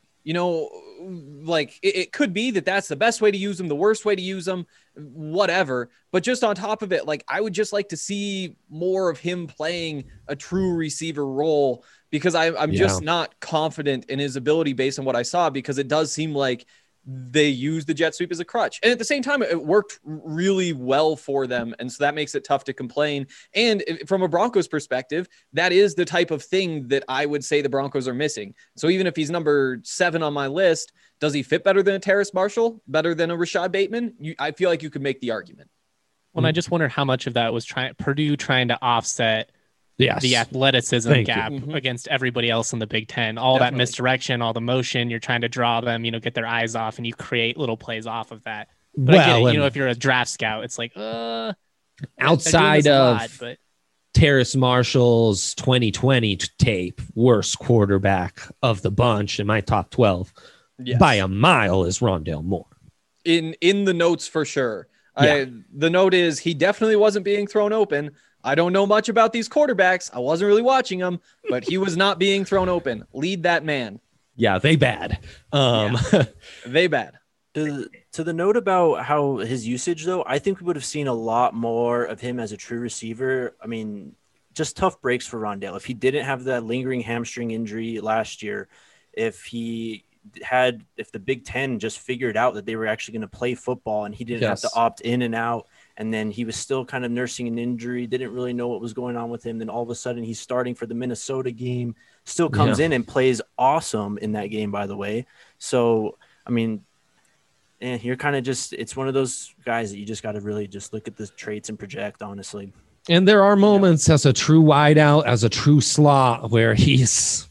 It could be that that's the best way to use them, the worst way to use them, whatever. But just on top of it, I would just like to see more of him playing a true receiver role because I'm just not confident in his ability based on what I saw, because it does seem like they use the jet sweep as a crutch. And at the same time, it worked really well for them. And so that makes it tough to complain. And from a Broncos perspective, that is the type of thing that I would say the Broncos are missing. So even if he's number 7 on my list, does he fit better than a Terrace Marshall, better than a Rashad Bateman? I feel like you could make the argument. Well, I just wonder how much of that was Purdue trying to offset Yes. the athleticism Thank you. gap Mhm. against everybody else in the Big Ten. All Definitely. that misdirection, all the motion, you're trying to draw them, get their eyes off, and you create little plays off of that. But I get it. and If you're a draft scout, it's like, they're doing outside this a of lot, but Terrace Marshall's 2020 tape, worst quarterback of the bunch in my top 12 Yes. by a mile is Rondale Moore. in the notes for sure. Yeah. The note is he definitely wasn't being thrown open. I don't know much about these quarterbacks. I wasn't really watching them, but he was not being thrown open. Lead that man. Yeah, they bad. They bad. To the note about how his usage, though, I think we would have seen a lot more of him as a true receiver. I mean, just tough breaks for Rondale. If he didn't have that lingering hamstring injury last year, if the Big Ten just figured out that they were actually going to play football and he didn't have to opt in and out, and then he was still kind of nursing an injury, didn't really know what was going on with him. Then all of a sudden he's starting for the Minnesota game, still comes in and plays awesome in that game, by the way. So, I mean, you're kind of it's one of those guys that you just got to really just look at the traits and project, honestly. And there are moments as a true wideout, as a true slot, where he's,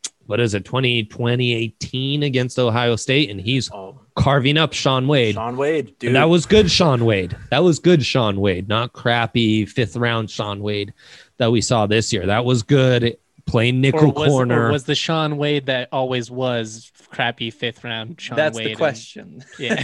2018 against Ohio State, and he's carving up Sean Wade. Sean Wade, dude. And that was good Sean Wade. That was good Sean Wade, not crappy 5th round Sean Wade that we saw this year. That was good. Playing nickel corner. Or was the Sean Wade that always was crappy 5th round Sean That's Wade? the question.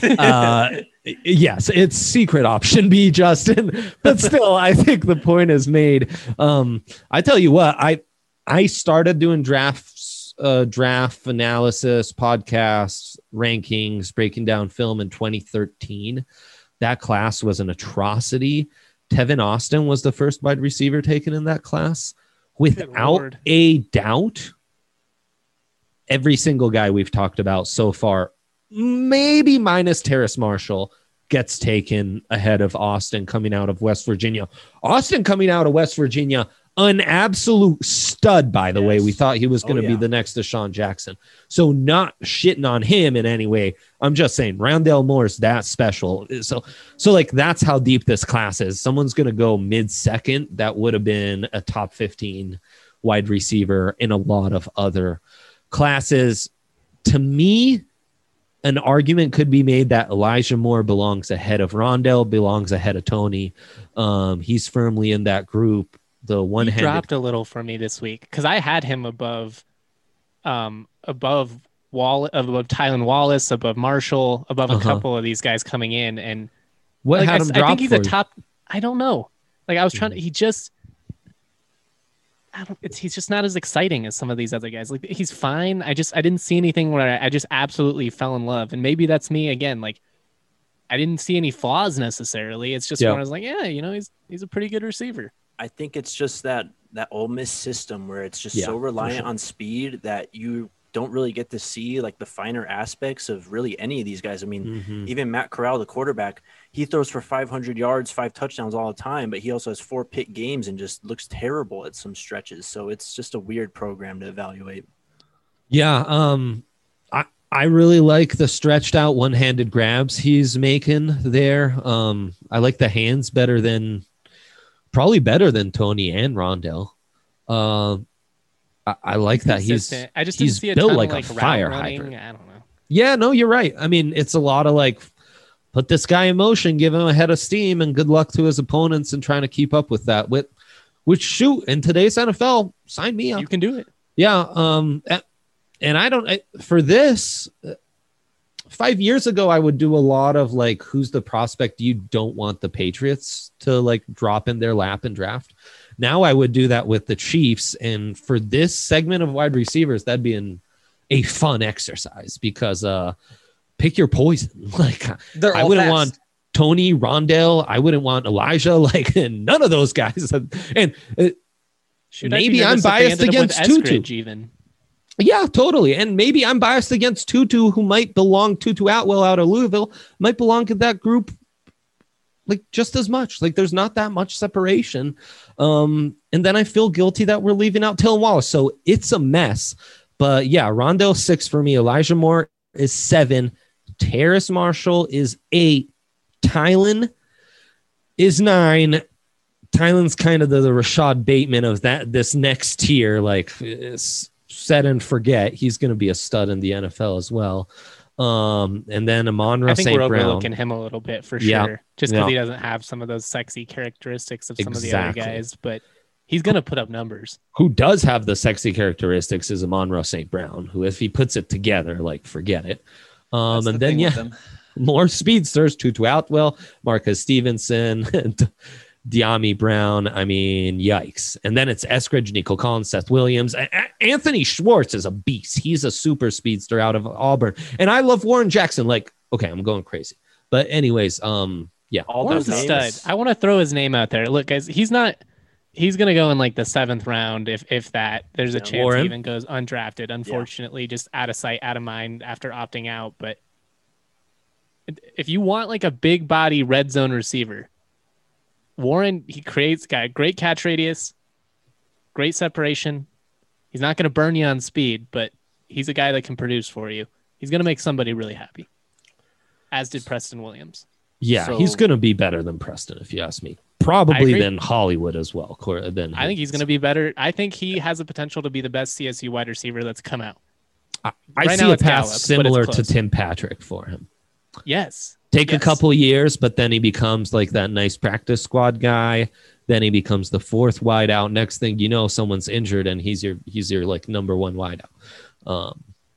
Yes, it's secret option B, Justin. But still, I think the point is made. I tell you what, I started doing draft analysis, podcasts, rankings, breaking down film in 2013. That class was an atrocity. Tevin Austin was the first wide receiver taken in that class. Without a doubt, every single guy we've talked about so far, maybe minus Terrace Marshall, gets taken ahead of Austin coming out of West Virginia. Austin coming out of West Virginia, an absolute stud, by the way. We thought he was going to be the next Deshaun Jackson. So not shitting on him in any way. I'm just saying Rondale Moore's that special. So like that's how deep this class is. Someone's going to go mid-second. That would have been a top 15 wide receiver in a lot of other classes. To me, an argument could be made that Elijah Moore belongs ahead of Rondale, belongs ahead of Tony. He's firmly in that group. The one-handed he dropped a little for me this week because I had him above Tylen Wallace, above Marshall, above a couple of these guys coming in. And what had him drop? I think he's a top. I don't know. Like I was trying to. He's just not as exciting as some of these other guys. Like he's fine. I didn't see anything where I just absolutely fell in love. And maybe that's me again. Like I didn't see any flaws necessarily. It's just when I was like, he's a pretty good receiver. I think it's just that Ole Miss system where it's just so reliant on speed that you don't really get to see like the finer aspects of really any of these guys. I mean, even Matt Corral, the quarterback, he throws for 500 yards, 5 touchdowns all the time, but he also has 4 pick games and just looks terrible at some stretches. So it's just a weird program to evaluate. Yeah. I really like the stretched out one-handed grabs he's making there. I like the hands probably better than Tony and Rondale. I like that he's didn't see built ton like of, a fire hydrant. I don't know. Yeah, no, you're right. I mean, it's a lot of like put this guy in motion, give him a head of steam, and good luck to his opponents and trying to keep up with that. Which shoot, in today's NFL, sign me up. You can do it. Yeah. And for this. 5 years ago, I would do a lot of like, who's the prospect you don't want the Patriots to like drop in their lap and draft. Now I would do that with the Chiefs. And for this segment of wide receivers, that'd be a fun exercise because pick your poison. Like I wouldn't want Tony, Rondale. I wouldn't want Elijah, like none of those guys. And maybe I'm biased against Tutu. Even. Yeah, totally. And maybe I'm biased against Tutu, who might belong, Tutu Atwell out of Louisville, might belong to that group like just as much. Like there's not that much separation. And then I feel guilty that we're leaving out Tylan Wallace. So it's a mess. But yeah, Rondale 6 for me. Elijah Moore is 7. Terrace Marshall is 8. Tylen is 9. Tylen's kind of the Rashad Bateman of this next tier. Like, set and forget. He's going to be a stud in the NFL as well. And then Amon-Ra I think St. we're Brown. overlooking him a little bit for Yeah. sure, just because Yeah. he doesn't have some of those sexy characteristics of some of the Exactly. other guys. But he's going to put up numbers. Who does have the sexy characteristics is Amon-Ra St. Brown, who, if he puts it together, like, forget it. That's And the then, thing yeah, with them. more speedsters, Tutu Atwell, Marcus Stevenson, and Diami Brown. I mean, yikes. And then it's Eskridge, Nico Collins, Seth Williams. Anthony Schwartz is a beast. He's a super speedster out of Auburn. And I love Warren Jackson. Like, okay, I'm going crazy. But anyways, yeah. All Warren's those a names. stud. I want to throw his name out there. Look, guys, he's going to go in like the 7th round, if that. There's a chance Warren. he even goes undrafted. Unfortunately, just out of sight, out of mind after opting out. But if you want like a big body red zone receiver, Warren, got great catch radius, great separation. He's not going to burn you on speed, but he's a guy that can produce for you. He's going to make somebody really happy, as did Preston Williams. Yeah, So- he's going to be better than Preston, if you ask me. I Probably agree. than Hollywood as well. I think he's going to be better. I think he has the potential to be the best CSU wide receiver that's come out. I Right see now a it's path Gallup, but it's similar to close. Tim Patrick for him. Yes. Take a Yes. couple years, but then he becomes like that nice practice squad guy. Then he becomes the 4th wideout. Next thing you know, someone's injured and he's your like number 1 wideout.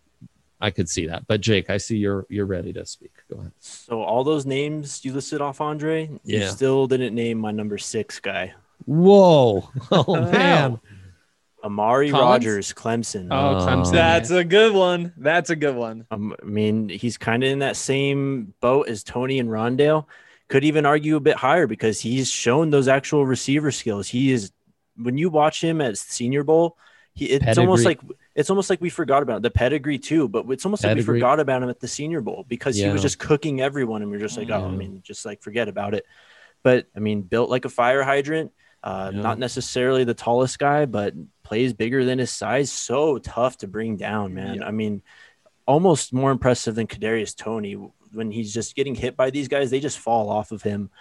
I could see that. But Jake, I see you're ready to speak. Go ahead. So all those names you listed off, Andre, you Yeah. still didn't name my number 6 guy, Whoa. Oh man. Amari Collins? Rogers, Clemson. Oh, Clemson. That's a good one. That's a good one. I mean, he's kind of in that same boat as Tony and Rondale. Could even argue a bit higher because he's shown those actual receiver skills. He is, when you watch him at Senior Bowl, it's almost like we forgot about the pedigree too. But it's almost like we Pedigree. forgot about him at the Senior Bowl because he was Yeah. just cooking everyone, and we're just like, oh, I Yeah. mean, just like forget about it. But I mean, built like a fire hydrant. Yeah. Not necessarily the tallest guy, but plays bigger than his size. So tough to bring down, man. Yeah. I mean, almost more impressive than Kadarius Toney. When he's just getting hit by these guys, they just fall off of him.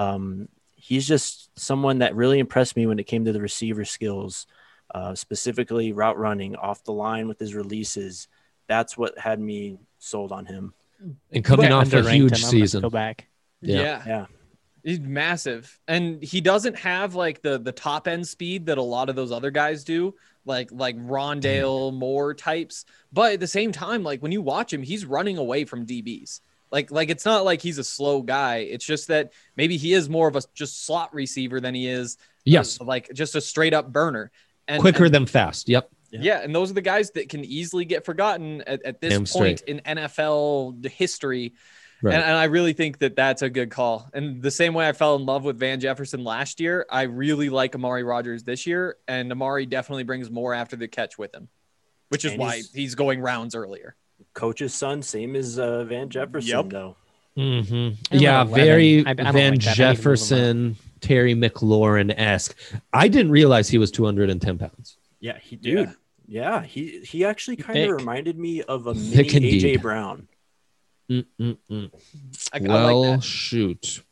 He's just someone that really impressed me when it came to the receiver skills, specifically route running off the line with his releases. That's what had me sold on him. And coming I off a underranked huge him. I'm gonna season. Go back. Yeah. Yeah. He's massive. And he doesn't have like the top end speed that a lot of those other guys do, like Rondale Moore types. But at the same time, like when you watch him, he's running away from DBs. Like it's not like he's a slow guy. It's just that maybe he is more of a just slot receiver than he is Yes. like just a straight up burner. And Quicker than fast. Yep. yeah, and those are the guys that can easily get forgotten at this Damn point straight. in NFL history. Right. And I really think that that's a good call. And the same way I fell in love with Van Jefferson last year, I really like Amari Rogers this year. And Amari definitely brings more after the catch with him, which is And why he's going rounds earlier. Coach's son, same as Van Jefferson, Yep. though. Mm-hmm. I'm Yeah, at 11. very I don't Van like that. I need to move him up. Jefferson, Terry McLaurin esque. I didn't realize he was 210 pounds. Yeah, he Yeah. dude. Yeah, he actually kind Thick. of reminded me of a mini Thick indeed. AJ Brown. Mm-mm-mm. I Well, like that. shoot.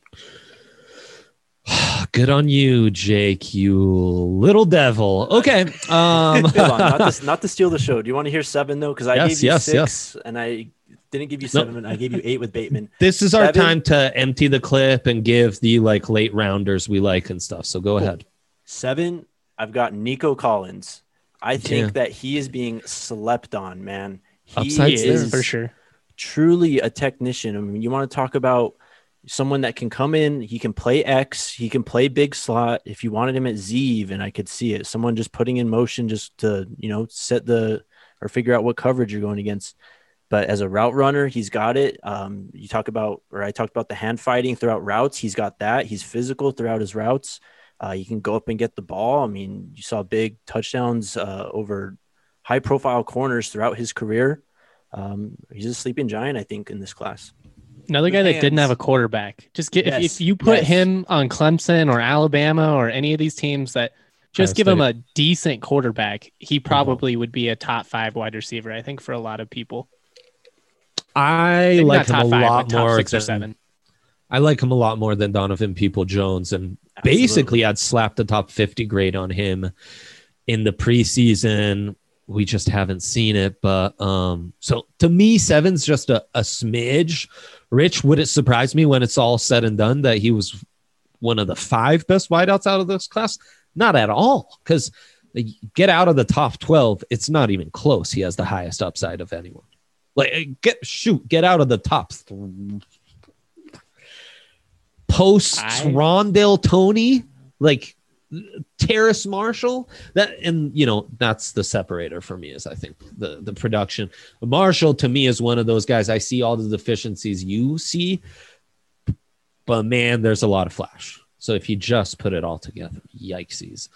Good on you, Jake, you little devil. Okay. Hold on, not to steal the show. Do you want to hear 7 though? Because I Yes, gave you yes, 6, and I didn't give you 7. I gave you 8 with Bateman. This is our 7. time to empty the clip and give the like late rounders we like and stuff. So go ahead. 7, I've got Nico Collins. I think Yeah. that he is being slept on, man. He Upside He Stairs. is for sure. truly a technician. I mean, you want to talk about someone that can come in, he can play X, he can play big slot. If you wanted him at Z, even I could see it. Someone just putting in motion just to, set or figure out what coverage you're going against. But as a route runner, he's got it. I talked about the hand fighting throughout routes. He's got that. He's physical throughout his routes. He can go up and get the ball. I mean, you saw big touchdowns over high profile corners throughout his career. He's a sleeping giant, I think, in this class. Another guy that didn't hands. have a quarterback. Just get Yes, if you put yes. him on Clemson or Alabama or any of these teams that just Ohio give him State. a decent quarterback, he probably would be a top 5 wide receiver. I think for a lot of people. I Maybe like not him a top 5, lot but top more 6 or than 7. I like him a lot more than Donovan People-Jones, and basically I'd slap the top 50 grade on him in the preseason. We just haven't seen it, but so to me, 7's just a smidge. Rich, would it surprise me when it's all said and done that he was one of the 5 best wideouts out of this class? Not at all, because get out of the top 12, it's not even close. He has the highest upside of anyone. Like get out of the top post Rondell Tony, like Terrace Marshall, that's the separator for me, is I think the production. Marshall to me is one of those guys. I see all the deficiencies you see, but man, there's a lot of flash. So if you just put it all together, yikesies.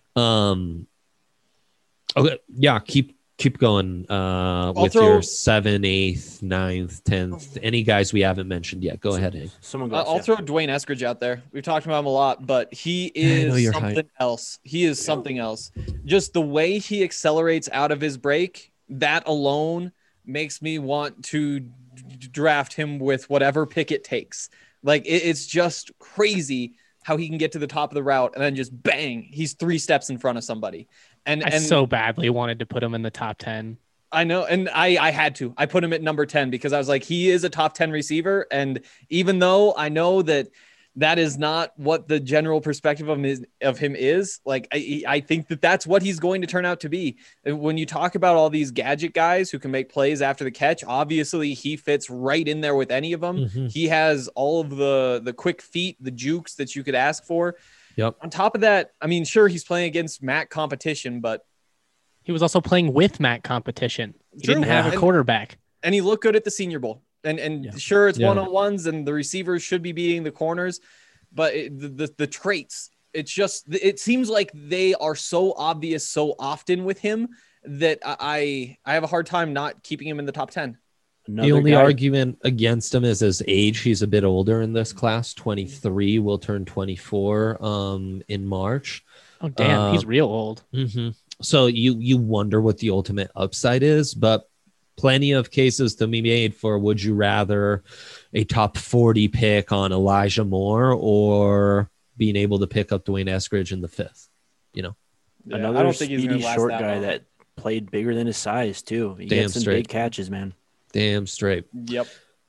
Okay, yeah, keep going with your 7th, 8th, 9th, 10th. Any guys we haven't mentioned yet? Go ahead, Hank. I'll throw Dwayne Eskridge out there. We've talked about him a lot, but he is something else. He is something else. Just the way he accelerates out of his break, that alone makes me want to draft him with whatever pick it takes. Like it's just crazy how he can get to the top of the route and then just bang, he's 3 steps in front of somebody. And I so badly wanted to put him in the top 10. I know. And I had to. I put him at number 10 because I was like, he is a top 10 receiver. And even though I know that is not what the general perspective of him is, like, I think that's what he's going to turn out to be. And when you talk about all these gadget guys who can make plays after the catch, obviously he fits right in there with any of them. Mm-hmm. He has all of the quick feet, the jukes that you could ask for. Yep. On top of that, I mean, sure, he's playing against MAC competition, but he was also playing with MAC competition. He didn't have a quarterback. And he looked good at the Senior Bowl. And sure, it's one-on-ones and the receivers should be beating the corners, but the traits, it seems like they are so obvious so often with him that I have a hard time not keeping him in the top 10. The only argument against him is his age. He's a bit older in this class. 23, will turn 24 in March. Oh, damn. He's real old. Mm-hmm. So you wonder what the ultimate upside is, but plenty of cases to be made for would you rather a top 40 pick on Elijah Moore or being able to pick up Dwayne Eskridge in the 5th? Another I don't think he's speedy short guy that played bigger than his size too. He gets some big catches, man. Damn straight. Yep.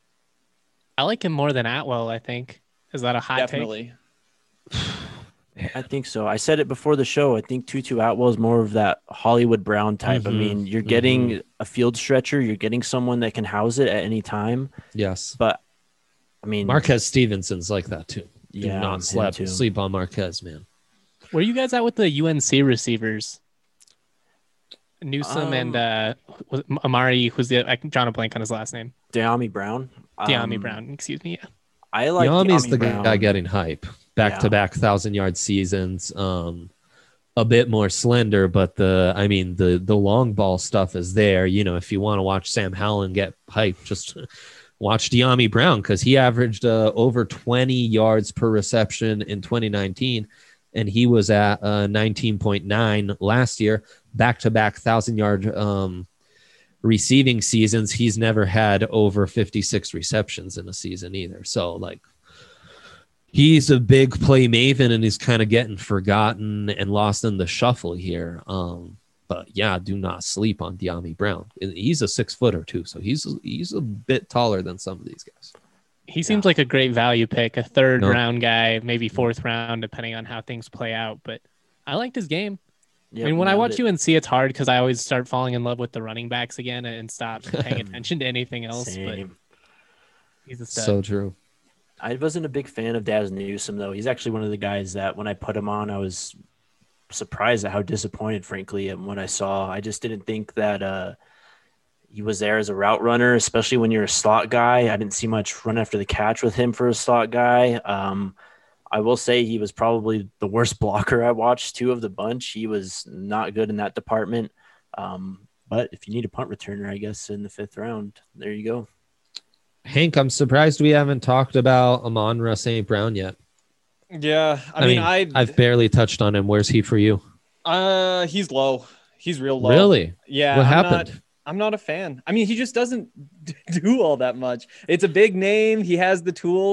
I like him more than Atwell, I think. Is that a hot Definitely. take? I think so. I said it before the show. I think Tutu Atwell is more of that Hollywood Brown type. I mean, you're getting a field stretcher. You're getting someone that can house it at any time. Yes. But, I mean. Marquez Stevenson's like that, too. Yeah. Do not sleep on Marquez, man. Where are you guys at with the UNC receivers? Newsome and Amari, who's drawing a blank on his last name. De'Ami Brown. Brown, excuse me. Yeah. I like De'Ami's the Brown. guy getting hype. Back-to-back 1,000-yard seasons. A bit more slender, but the long ball stuff is there. If you want to watch Sam Howell get hype, just watch De'Ami Brown, because he averaged over 20 yards per reception in 2019. And he was at 19.9 last year, back-to-back 1,000-yard receiving seasons. He's never had over 56 receptions in a season either. So, he's a big play maven, and he's kind of getting forgotten and lost in the shuffle here. But, yeah, do not sleep on De'Ami Brown. He's a 6-footer, too, so he's a bit taller than some of these guys. He seems like a great value pick, a third-round guy, maybe 4th round, depending on how things play out. But I liked his game. Yep, I mean, when I watch UNC, it's hard because I always start falling in love with the running backs again and stop paying attention to anything else. Same. But he's a stud. So true. I wasn't a big fan of Daz Newsome, though. He's actually one of the guys that when I put him on, I was surprised at how disappointed, frankly, at what I saw. I just didn't think that he was there as a route runner, especially when you're a slot guy. I didn't see much run after the catch with him for a slot guy. I will say he was probably the worst blocker I watched, too, of the bunch. He was not good in that department. But if you need a punt returner, I guess, in the 5th round, there you go. Hank, I'm surprised we haven't talked about Amon-Ra St. Brown yet. Yeah, I mean, I've barely touched on him. Where's he for you? He's low. He's real low. Really? Yeah. What happened? I'm not a fan. I mean, he just doesn't do all that much. It's a big name. He has the tools,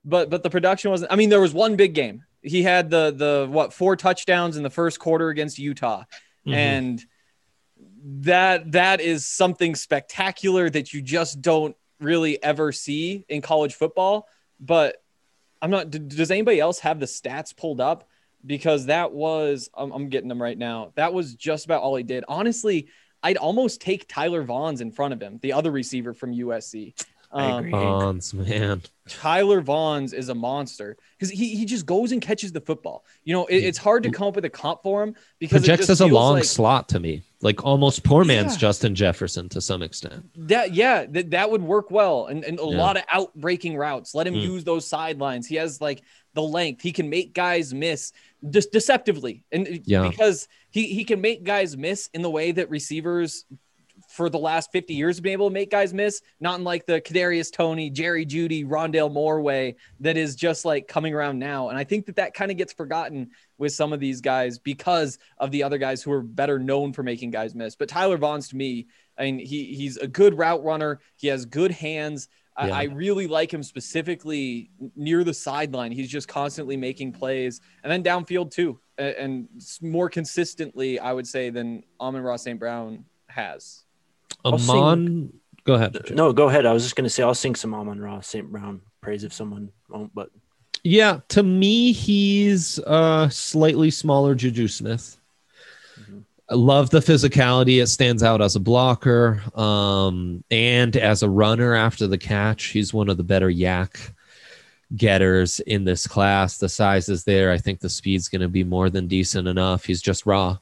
but the production wasn't. I mean, there was one big game. He had the 4 touchdowns in the first quarter against Utah, and that is something spectacular that you just don't really ever see in college football. But I'm not. Does anybody else have the stats pulled up? Because that was, I'm getting them right now. That was just about all he did. Honestly, I'd almost take Tyler Vaughns in front of him, the other receiver from USC. I agree. Vaughns, man. Tyler Vaughns is a monster because he just goes and catches the football. You know, it's hard to come up with a comp for him because Projects it just as a feels long like, slot to me, like almost poor man's Justin Jefferson to some extent. that would work well. And a lot of out breaking routes. Let him use those sidelines. He has like the length. He can make guys miss deceptively. And because he can make guys miss in the way that receivers for the last 50 years have been able to make guys miss, not in like the Kadarius Toney, Jerry Jeudy, Rondale Moore way that is just like coming around now. And I think that kind of gets forgotten with some of these guys because of the other guys who are better known for making guys miss. But Tyler Vaughns, to me, I mean, he's a good route runner. He has good hands. I really like him specifically near the sideline. He's just constantly making plays, and then downfield too, and more consistently, I would say, than Amon-Ra St. Brown has. Go ahead. No, go ahead. I was just going to say I'll sing some Amon-Ra St. Brown praise if someone won't. But yeah, to me, he's a slightly smaller Juju Smith. I love the physicality. It stands out as a blocker and as a runner after the catch. He's one of the better yak getters in this class. The size is there. I think the speed's going to be more than decent enough. He's just raw.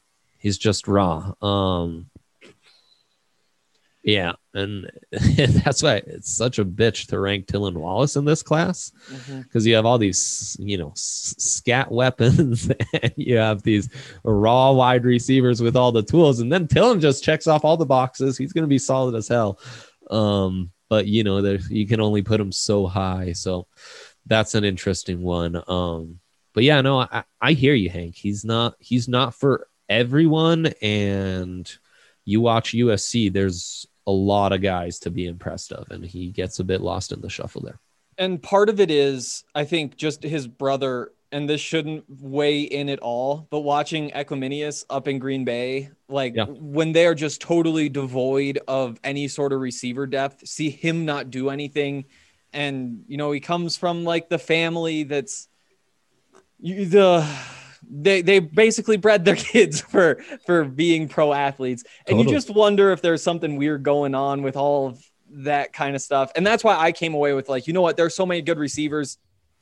Yeah, and that's why it's such a bitch to rank Tylan Wallace in this class because you have all these, scat weapons and you have these raw wide receivers with all the tools, and then Tylan just checks off all the boxes. He's going to be solid as hell, but you can only put him so high, so that's an interesting one. But yeah, no, I hear you, Hank. He's not for everyone, and you watch USC, there's a lot of guys to be impressed of, and he gets a bit lost in the shuffle there. And part of it is, I think, just his brother, and this shouldn't weigh in at all, but watching Equiminius up in Green Bay, when they're just totally devoid of any sort of receiver depth, see him not do anything. And, he comes from like the family that's they basically bred their kids for being pro athletes. And you just wonder if there's something weird going on with all of that kind of stuff. And that's why I came away with like, you know what? There's so many good receivers.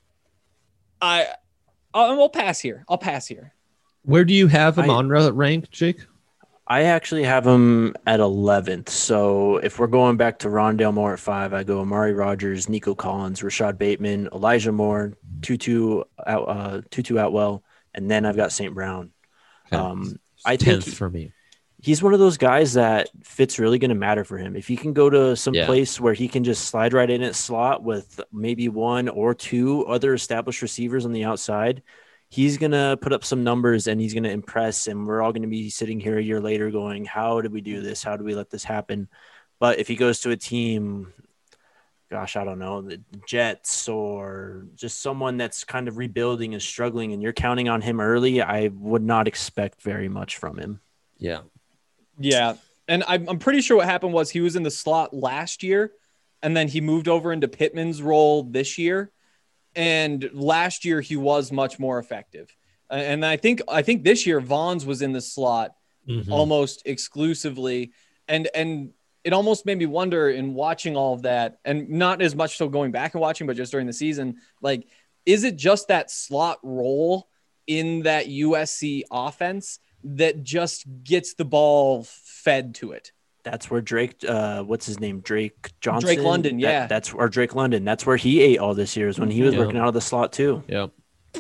I'll pass here. Where do you have him on rank, Jake? I actually have him at 11th. So if we're going back to Rondale Moore at 5, I go Amari Rogers, Nico Collins, Rashad Bateman, Elijah Moore, Tutu Atwell, and then I've got St. Brown. I think 10th for me. He's one of those guys that fit's really going to matter for him. If he can go to some place where he can just slide right in at slot with maybe 1 or 2 other established receivers on the outside, he's going to put up some numbers and he's going to impress. And we're all going to be sitting here a year later going, how did we do this? How did we let this happen? But if he goes to a team, gosh, I don't know, the Jets or just someone that's kind of rebuilding and struggling and you're counting on him early, I would not expect very much from him. Yeah. Yeah. And I'm pretty sure what happened was he was in the slot last year and then he moved over into Pittman's role this year. And last year he was much more effective. And I think this year Vaughns was in the slot almost exclusively. And it almost made me wonder in watching all of that, and not as much so going back and watching, but just during the season, like, is it just that slot role in that USC offense that just gets the ball fed to it? That's where Drake, what's his name? Drake Johnson. Drake London, yeah. That's where Drake London. That's where he ate all this year, is when he was working out of the slot too. Yep.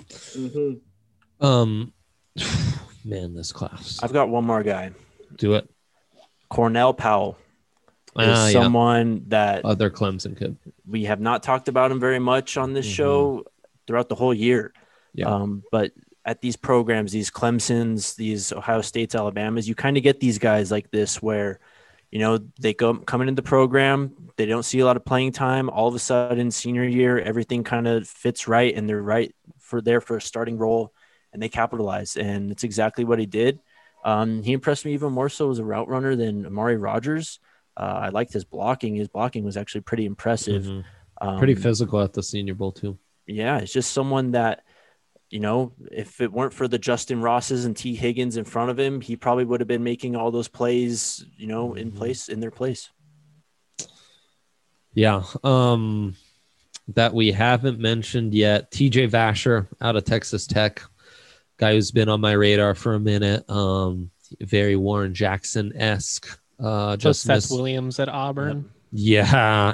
Man, this class. I've got one more guy. Do it. Cornell Powell is someone that other Clemson kid. We have not talked about him very much on this show throughout the whole year. Yeah. But at these programs, these Clemsons, these Ohio States, Alabamas, you kind of get these guys like this where they go coming into the program, they don't see a lot of playing time. All of a sudden, senior year, everything kind of fits right, and they're right for a starting role, and they capitalize. And it's exactly what he did. He impressed me even more so as a route runner than Amari Rogers. I liked his blocking. His blocking was actually pretty impressive. Pretty physical at the Senior Bowl too. Yeah, it's just someone that, if it weren't for the Justin Rosses and T. Higgins in front of him, he probably would have been making all those plays, in their place. Yeah. That we haven't mentioned yet, TJ Vasher out of Texas Tech, guy who's been on my radar for a minute. Very Warren Jackson-esque. Just Seth Williams at Auburn. Yeah.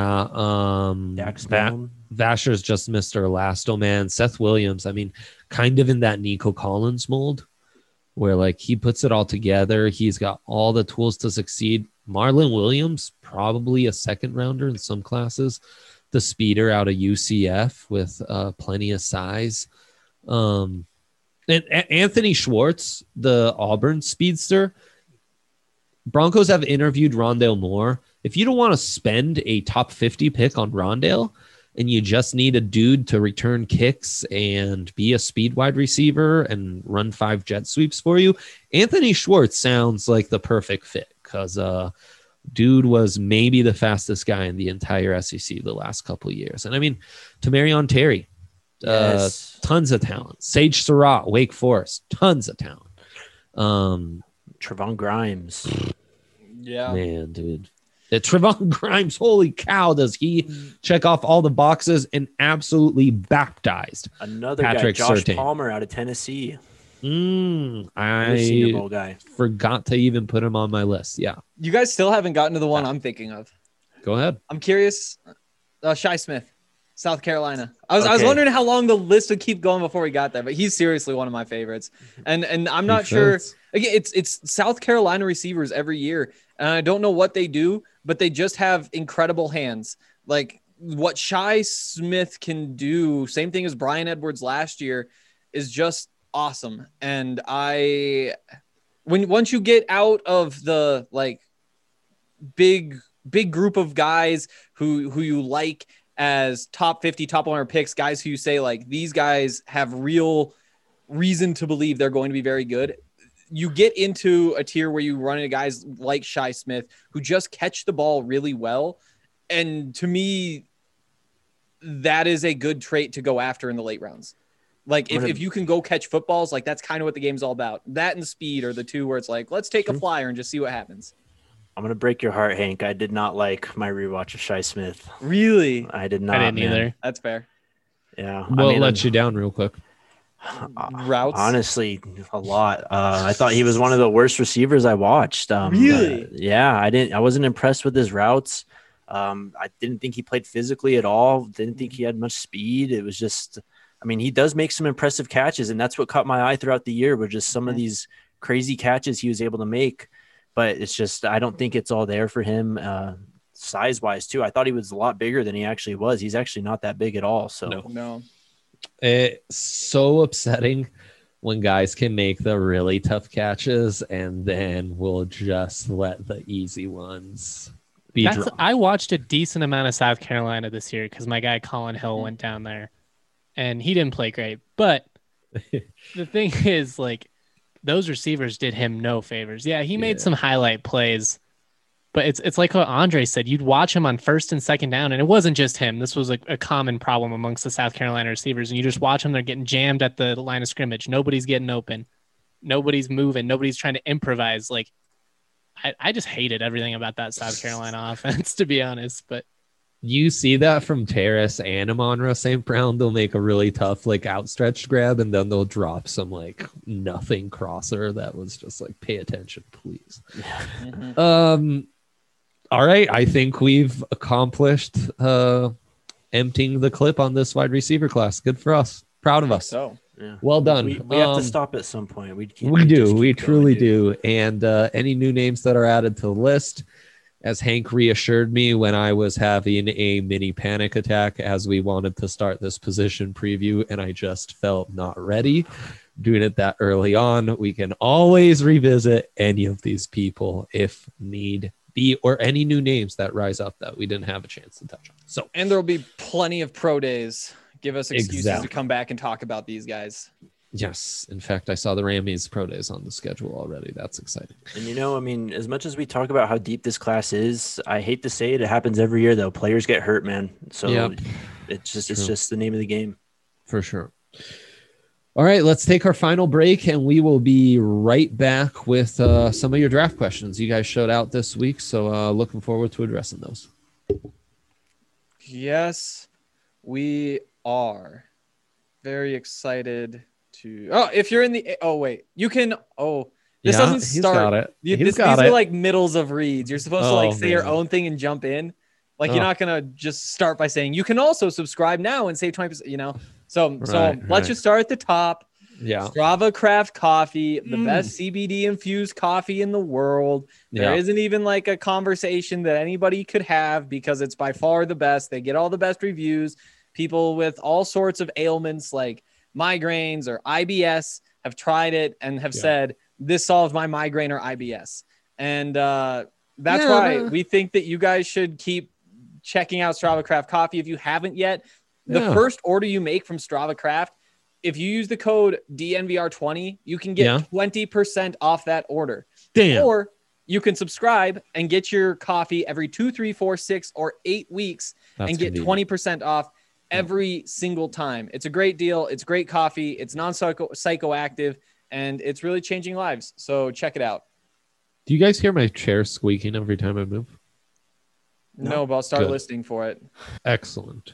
Dax Vasher's just Mr. Elasto, man. Seth Williams, I mean, kind of in that Nico Collins mold where like he puts it all together. He's got all the tools to succeed. Marlon Williams, probably a second rounder in some classes. The speeder out of UCF with plenty of size. And Anthony Schwartz, the Auburn speedster. Broncos have interviewed Rondale Moore. If you don't want to spend a top 50 pick on Rondale and you just need a dude to return kicks and be a speed wide receiver and run 5 jet sweeps for you, Anthony Schwartz sounds like the perfect fit because dude was maybe the fastest guy in the entire SEC the last couple of years. And I mean, Tamarion Terry, yes. Tons of talent. Sage Surratt, Wake Forest, tons of talent. Trevon Grimes. Yeah. Man, dude. Trevon Grimes, holy cow, does he check off all the boxes and absolutely baptized another Patrick guy, Josh Surtain. Palmer out of Tennessee. I Senior Bowl guy. Forgot to even put him on my list. Yeah. You guys still haven't gotten to the one I'm thinking of. Go ahead. I'm curious. Shi Smith, South Carolina. I was Okay. wondering how long the list would keep going before we got there, but he's seriously one of my favorites. And I'm not sure. Again, it's South Carolina receivers every year. And I don't know what they do, but they just have incredible hands. Like what Shi Smith can do, same thing as Brian Edwards last year, is just awesome. And once you get out of the like big group of guys who you like as top 50, top 100 picks, guys who you say like these guys have real reason to believe they're going to be very good. You get into a tier where you run into guys like Shi Smith who just catch the ball really well. And to me, that is a good trait to go after in the late rounds. Like if you can go catch footballs, like that's kind of what the game's all about. That and speed are the two where it's like, let's take a flyer and just see what happens. I'm going to break your heart, Hank. I did not like my rewatch of Shi Smith. Really? I did not. I didn't either. That's fair. Yeah. What let you down real quick? Routes? Honestly, a lot. I thought he was one of the worst receivers I watched. Really? Yeah, I wasn't impressed with his routes. I didn't think he played physically at all. Didn't think he had much speed. It was just, I mean, he does make some impressive catches, and that's what caught my eye throughout the year, were just some of these crazy catches he was able to make. But it's just, I don't think it's all there for him size-wise, too. I thought he was a lot bigger than he actually was. He's actually not that big at all. So No. It's so upsetting when guys can make the really tough catches and then we'll just let the easy ones be dropped. I watched a decent amount of South Carolina this year because my guy Colin Hill went down there and he didn't play great. But the thing is, like, those receivers did him no favors. Yeah, he made some highlight plays, but it's like what Andre said. You'd watch him on first and second down, and it wasn't just him. This was a common problem amongst the South Carolina receivers, and you just watch them. They're getting jammed at the line of scrimmage. Nobody's getting open. Nobody's moving. Nobody's trying to improvise. Like, I just hated everything about that South Carolina offense, to be honest. But you see that from Terrace and Amon-Ra St. Brown. They'll make a really tough, like, outstretched grab, and then they'll drop some, like, nothing crosser that was just like, pay attention, please. All right, I think we've accomplished emptying the clip on this wide receiver class. Good for us. Proud of us. So yeah. Well done. We have to stop at some point. We do. We truly do. And any new names that are added to the list, as Hank reassured me when I was having a mini panic attack as we wanted to start this position preview, and I just felt not ready doing it that early on. We can always revisit any of these people if need be, or any new names that rise up that we didn't have a chance to touch on. So, And there will be plenty of pro days. Give us excuses Exactly. to come back and talk about these guys. yes, in fact, I saw the Rammies pro days on the schedule already. That's exciting. And I mean, as much as we talk about how deep this class is, I hate to say it, it happens every year though. Players get hurt, man. So Yep. it's True. just the name of the game. For sure. All right, let's take our final break, and we will be right back with some of your draft questions you guys showed out this week. So looking forward to addressing those. Yes, we are very excited to. Oh, if you're in the. Oh, wait. You can. Oh, this doesn't he's start. got it. These got are it. like middles of reads. You're supposed to like Oh, say your man. own thing and jump in. Like Oh. you're not gonna just start by saying you can also subscribe now and save 20%. So Right, let's right. just start at the top. Yeah. Strava Craft Coffee, the Mm. best CBD infused coffee in the world. There Yeah. isn't even like a conversation that anybody could have because it's by far the best. They get all the best reviews. People with all sorts of ailments like migraines or IBS have tried it and have Yeah. said, this solves my migraine or IBS. And that's Yeah, why no. we think that you guys should keep checking out Strava Craft Coffee. If you haven't yet, the Yeah. first order you make from Strava Craft, if you use the code DNVR20, you can get Yeah. 20% off that order. Damn. Or you can subscribe and get your coffee every 2, 3, 4, 6, or 8 weeks That's and get convenient. 20% off every single time. It's a great deal. It's great coffee. It's non-psychoactive, and it's really changing lives. So check it out. Do you guys hear my chair squeaking every time I move? No, but I'll start Good. listening for it. Excellent.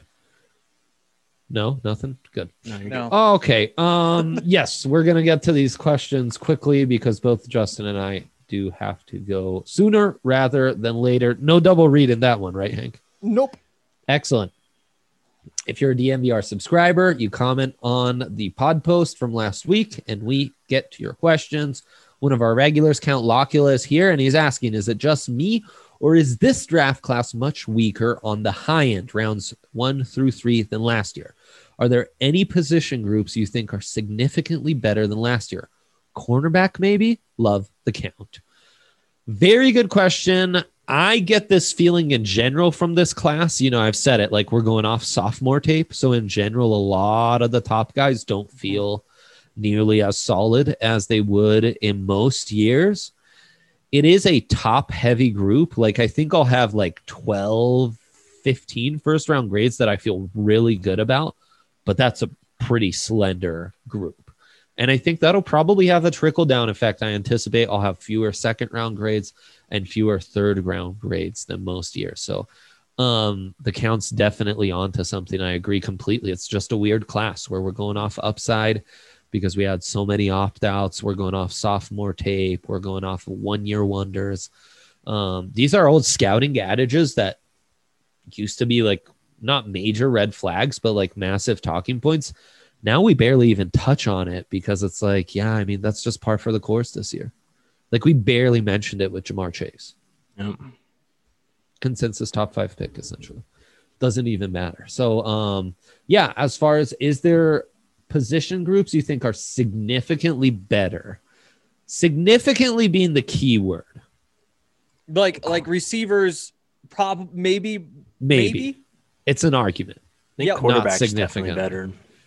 No, nothing? Good. No, you're No. Oh, okay. Yes, we're gonna get to these questions quickly because both Justin and I do have to go sooner rather than later. No double read in that one, right, Hank? Nope. Excellent. If you're a DMVR subscriber, you comment on the pod post from last week and we get to your questions. One of our regulars, Count Locula, is here and he's asking, is it just me or is this draft class much weaker on the high end, rounds 1 through 3, than last year? Are there any position groups you think are significantly better than last year? Cornerback, maybe? Love the Count. Very good question. I get this feeling in general from this class. I've said it, like we're going off sophomore tape. So in general, a lot of the top guys don't feel nearly as solid as they would in most years. It is a top heavy group. Like I think I'll have like 12, 15 first round grades that I feel really good about, but that's a pretty slender group. And I think that'll probably have a trickle down effect. I anticipate I'll have fewer second round grades and fewer third round grades than most years. So the Count's definitely onto something. I agree completely. It's just a weird class where we're going off upside because we had so many opt-outs. We're going off sophomore tape. We're going off 1 year wonders. These are old scouting adages that used to be like not major red flags, but like massive talking points. Now we barely even touch on it because it's like, yeah, I mean, that's just par for the course this year. Like we barely mentioned it with Jamar Chase. Yep. Consensus top 5 pick, essentially. Doesn't even matter. So, yeah, as far as is there position groups you think are significantly better? Significantly being the key word. Like receivers, maybe. It's an argument. I think Yep. Not quarterback's significant. definitely better.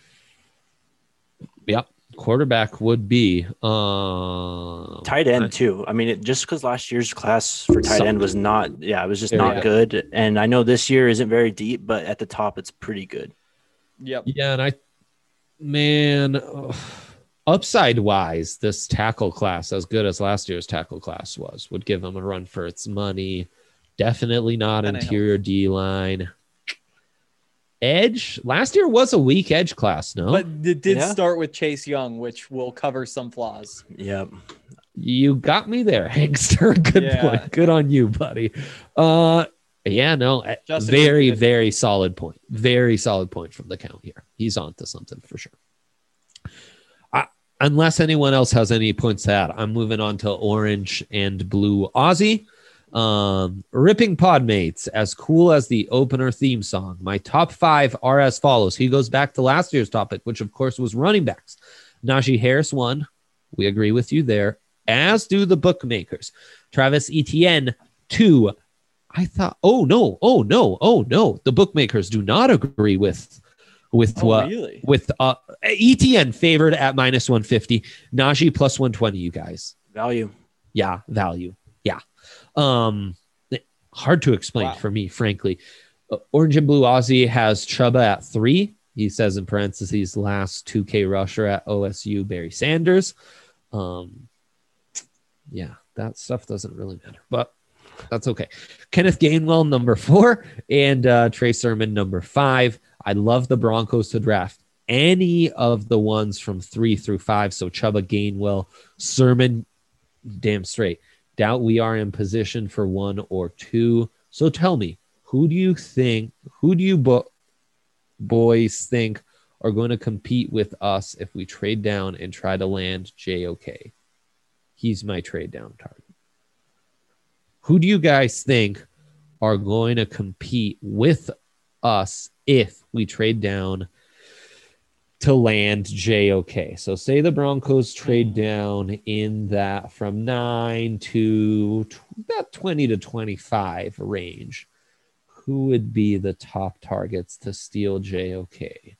Yep. Quarterback would be Tight end too. I mean, just because last year's class for tight end was not, it was just Very not good. And I know this year isn't very deep, but at the top, it's pretty good. Yep. Yeah, and upside wise, this tackle class, as good as last year's tackle class was, would give them a run for its money. Definitely not And interior D line. Edge last year was a weak edge class, no? But it did Yeah. start with Chase Young, which will cover some flaws. Yep. You got me there, Hankster. Good Yeah. point. Good on you, buddy. Yeah, no, Justin, very, good. very solid point. Very solid point from the Count here. He's on to something for sure. Unless anyone else has any points to add, I'm moving on to orange and blue Aussie. Ripping Podmates, as cool as the opener theme song. My top 5 are as follows. He goes back to last year's topic, which of course was running backs. Najee Harris won. We agree with you there, as do the bookmakers. Travis Etienne 2, I thought, oh no. The bookmakers do not agree with what really? with ETN favored at -150, Najee plus 120. You guys, Value. yeah, value, yeah. Hard to explain for me, frankly. Orange and Blue Aussie has Chuba at 3. He says in parentheses, last 2K rusher at OSU, Barry Sanders. Yeah, that stuff doesn't really matter, but that's okay. Kenneth Gainwell, number 4, and Trey Sermon, number 5. I love the Broncos to draft any of the ones from 3 through 5. So Chuba, Gainwell, Sermon, damn straight. Doubt we are in position for 1 or 2. So tell me, who do you boys think are going to compete with us if we trade down and try to land JOK? He's my trade down target. Who do you guys think are going to compete with us if we trade down to land JOK? So say the Broncos trade down in that from 9 to about 20 to 25 range. Who would be the top targets to steal JOK?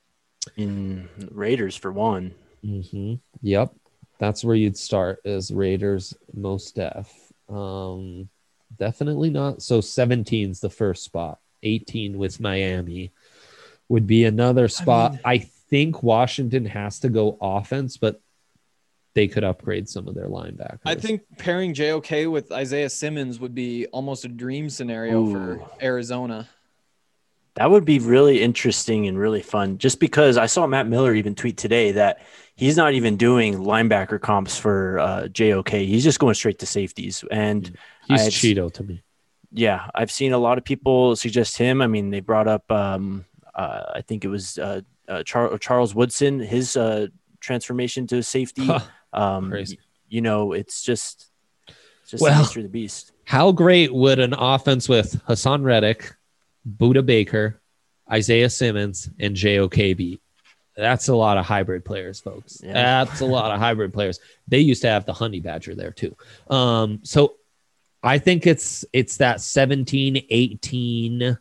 In Raiders for 1. Mm-hmm. Yep. That's where you'd start, is Raiders, most def. Definitely not. So 17 is the first spot. 18 with Miami would be another spot. I think Washington has to go offense, but they could upgrade some of their linebackers. I think pairing JOK with Isaiah Simmons would be almost a dream scenario for Arizona. That would be really interesting and really fun, just because I saw Matt Miller even tweet today that he's not even doing linebacker comps for JOK. He's just going straight to safeties. And he's Cheeto to me. Yeah, I've seen a lot of people suggest him. I mean, they brought up, I think it was Charles Woodson, his transformation to safety. Crazy. You know, it's just the nature of the beast. How great would an offense with Hassan Reddick, Buda Baker, Isaiah Simmons, and JOK be? That's a lot of hybrid players, folks. Yeah. That's a lot of hybrid players. They used to have the Honey Badger there too. So I think it's that 17, 18,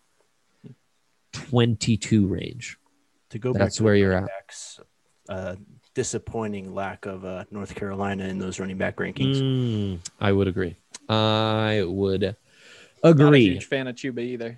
22 range. To go back, that's where you're at. Backs, disappointing lack of North Carolina in those running back rankings. I would agree. Not a huge fan of Chuba either.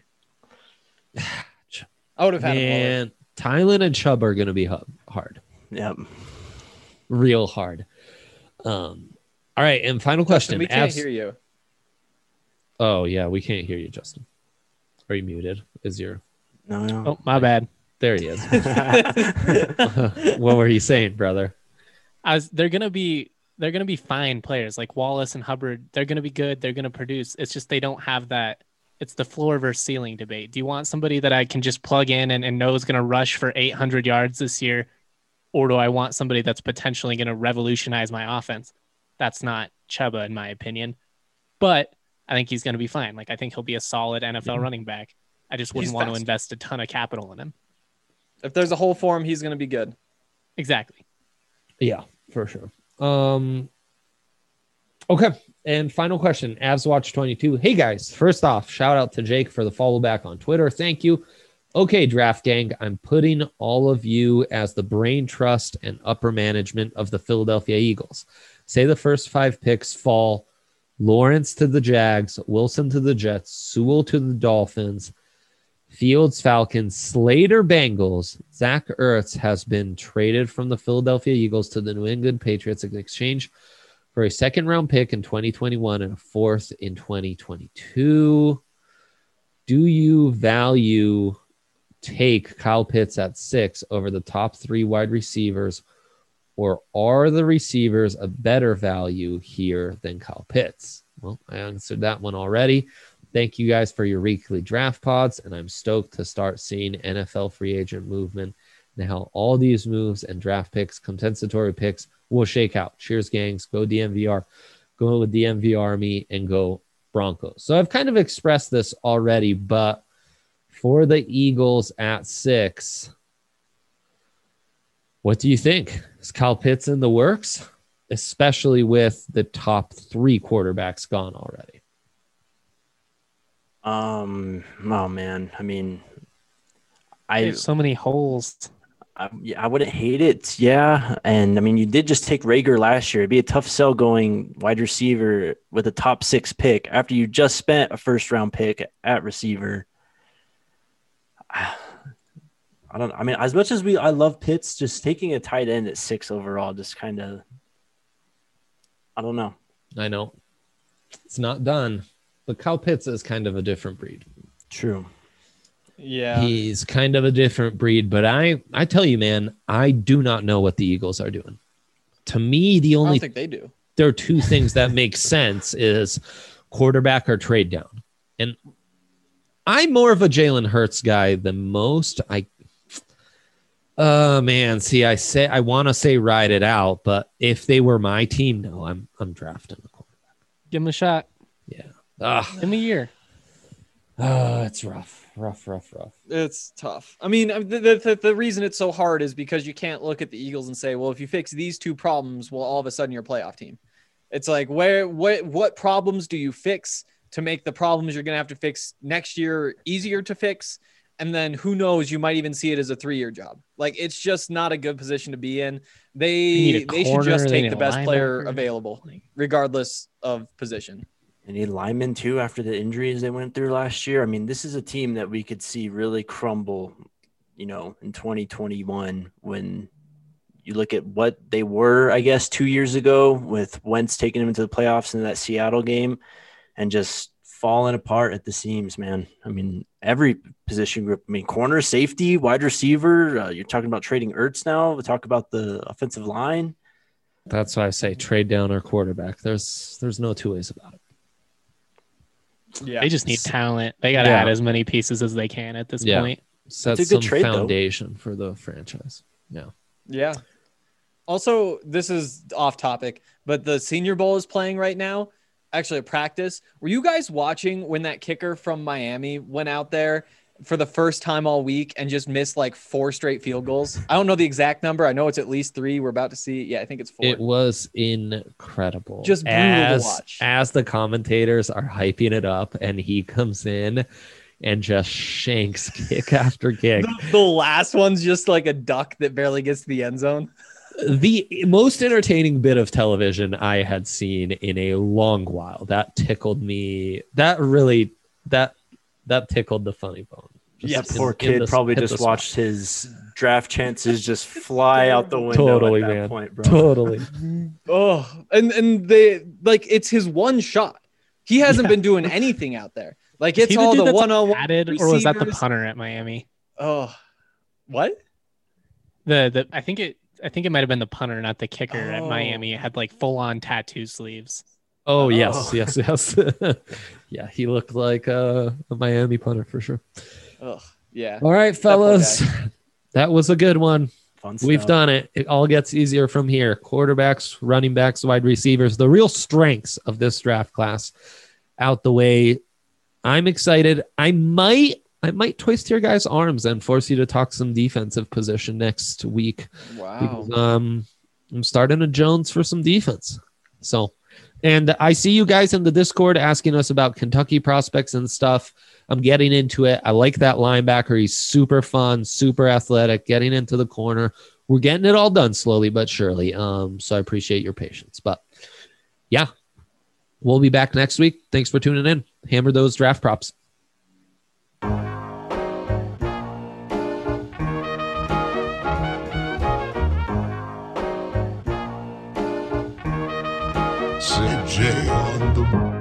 I would have had him. Tylen and Chubb are going to be hard. Yep. Real hard. All right. And final question. Justin, we can't hear you. Oh, yeah. We can't hear you, Justin. Are you muted? No. Oh, my bad. There he is. What were you saying, brother? They're gonna be fine players like Wallace and Hubbard. They're gonna be good. They're gonna produce. It's just they don't have that. It's the floor versus ceiling debate. Do you want somebody that I can just plug in and know is gonna rush for 800 yards this year, or do I want somebody that's potentially gonna revolutionize my offense? That's not Chuba, in my opinion, but I think he's gonna be fine. Like, I think he'll be a solid NFL running back. I just wouldn't want to invest a ton of capital in him. If there's a hole for him, he's going to be good. Exactly. Yeah, for sure. Okay. And final question, Avs Watch 22. Hey guys, first off, shout out to Jake for the follow back on Twitter. Thank you. Okay, Draft Gang, I'm putting all of you as the brain trust and upper management of the Philadelphia Eagles. Say the first 5 picks fall Lawrence to the Jags, Wilson to the Jets, Sewell to the Dolphins, Fields, Falcons, Slater, Bengals. Zach Ertz has been traded from the Philadelphia Eagles to the New England Patriots in exchange for a second-round pick in 2021 and a fourth in 2022. Do you take Kyle Pitts at 6 over the top 3 wide receivers, or are the receivers a better value here than Kyle Pitts? Well, I answered that one already. Thank you guys for your weekly draft pods, and I'm stoked to start seeing NFL free agent movement and how all these moves and draft picks, compensatory picks, will shake out. Cheers, gangs. Go DMVR. Go with DMV Army and go Broncos. So I've kind of expressed this already, but for the Eagles at 6, what do you think? Is Kyle Pitts in the works, especially with the top 3 quarterbacks gone already? Oh man. I mean, There's so many holes. yeah, I wouldn't hate it. Yeah. And I mean, you did just take Rager last year. It'd be a tough sell going wide receiver with a top 6 pick after you just spent a first round pick at receiver. I mean, as much as I love Pitts, just taking a tight end at 6 overall, just kind of, I don't know. I know it's not done, but Kyle Pitts is kind of a different breed. True. Yeah. He's kind of a different breed, but I tell you, man, I do not know what the Eagles are doing. To me, I don't think they do. there are two things that make sense is quarterback or trade down. And I'm more of a Jalen Hurts guy than most. I want to say ride it out, but if they were my team, no, I'm drafting a quarterback. Give him a shot. Yeah. Give him a year. It's rough. It's tough. I mean, the reason it's so hard is because you can't look at the Eagles and say, well, if you fix these two problems, well, all of a sudden you're a playoff team. It's like, what problems do you fix to make the problems you're going to have to fix next year easier to fix? And then who knows, you might even see it as a 3-year job. Like, it's just not a good position to be in. They should just take the best player available, regardless of position. They need linemen too after the injuries they went through last year. I mean, this is a team that we could see really crumble, in 2021 when you look at what they were, I guess, 2 years ago with Wentz taking them into the playoffs in that Seattle game and just falling apart at the seams, man. I mean, every position group. I mean, corner, safety, wide receiver. You're talking about trading Ertz now. We talk about the offensive line. That's why I say trade down or quarterback. There's no two ways about it. Yeah. They just need talent. They got to add as many pieces as they can at this point. Set some foundation for the franchise. Yeah. Yeah. Also, this is off topic, but the Senior Bowl is playing right now. Actually, a practice. Were you guys watching when that kicker from Miami went out there for the first time all week and just missed like 4 straight field goals? I don't know the exact number. I know it's at least 3. We're about to see. Yeah, I think it's 4. It was incredible. Just brutal to watch. As the commentators are hyping it up and he comes in and just shanks kick after kick. The last one's just like a duck that barely gets to the end zone. The most entertaining bit of television I had seen in a long while. That tickled me. That tickled the funny bone. That poor kid probably just watched his draft chances just fly out the window totally, at that man. point, bro. Totally. And they like it's his one shot. He hasn't been doing anything out there. Like it's all the one-on-one added, or was that the punter at Miami? Oh, what? I think it might have been the punter, not the kicker at Miami. It had like full-on tattoo sleeves. Oh, yes. Yeah, he looked like a Miami punter for sure. Oh, yeah. All right, fellas. That was a good one. Fun stuff. We've done it. It all gets easier from here. Quarterbacks, running backs, wide receivers, the real strengths of this draft class out the way. I'm excited. I might twist your guys' arms and force you to talk some defensive position next week. Wow. Because, I'm starting a Jones for some defense. So, and I see you guys in the Discord asking us about Kentucky prospects and stuff. I'm getting into it. I like that linebacker. He's super fun, super athletic, getting into the corner. We're getting it all done slowly but surely. So I appreciate your patience. But yeah, we'll be back next week. Thanks for tuning in. Hammer those draft props. CJ on the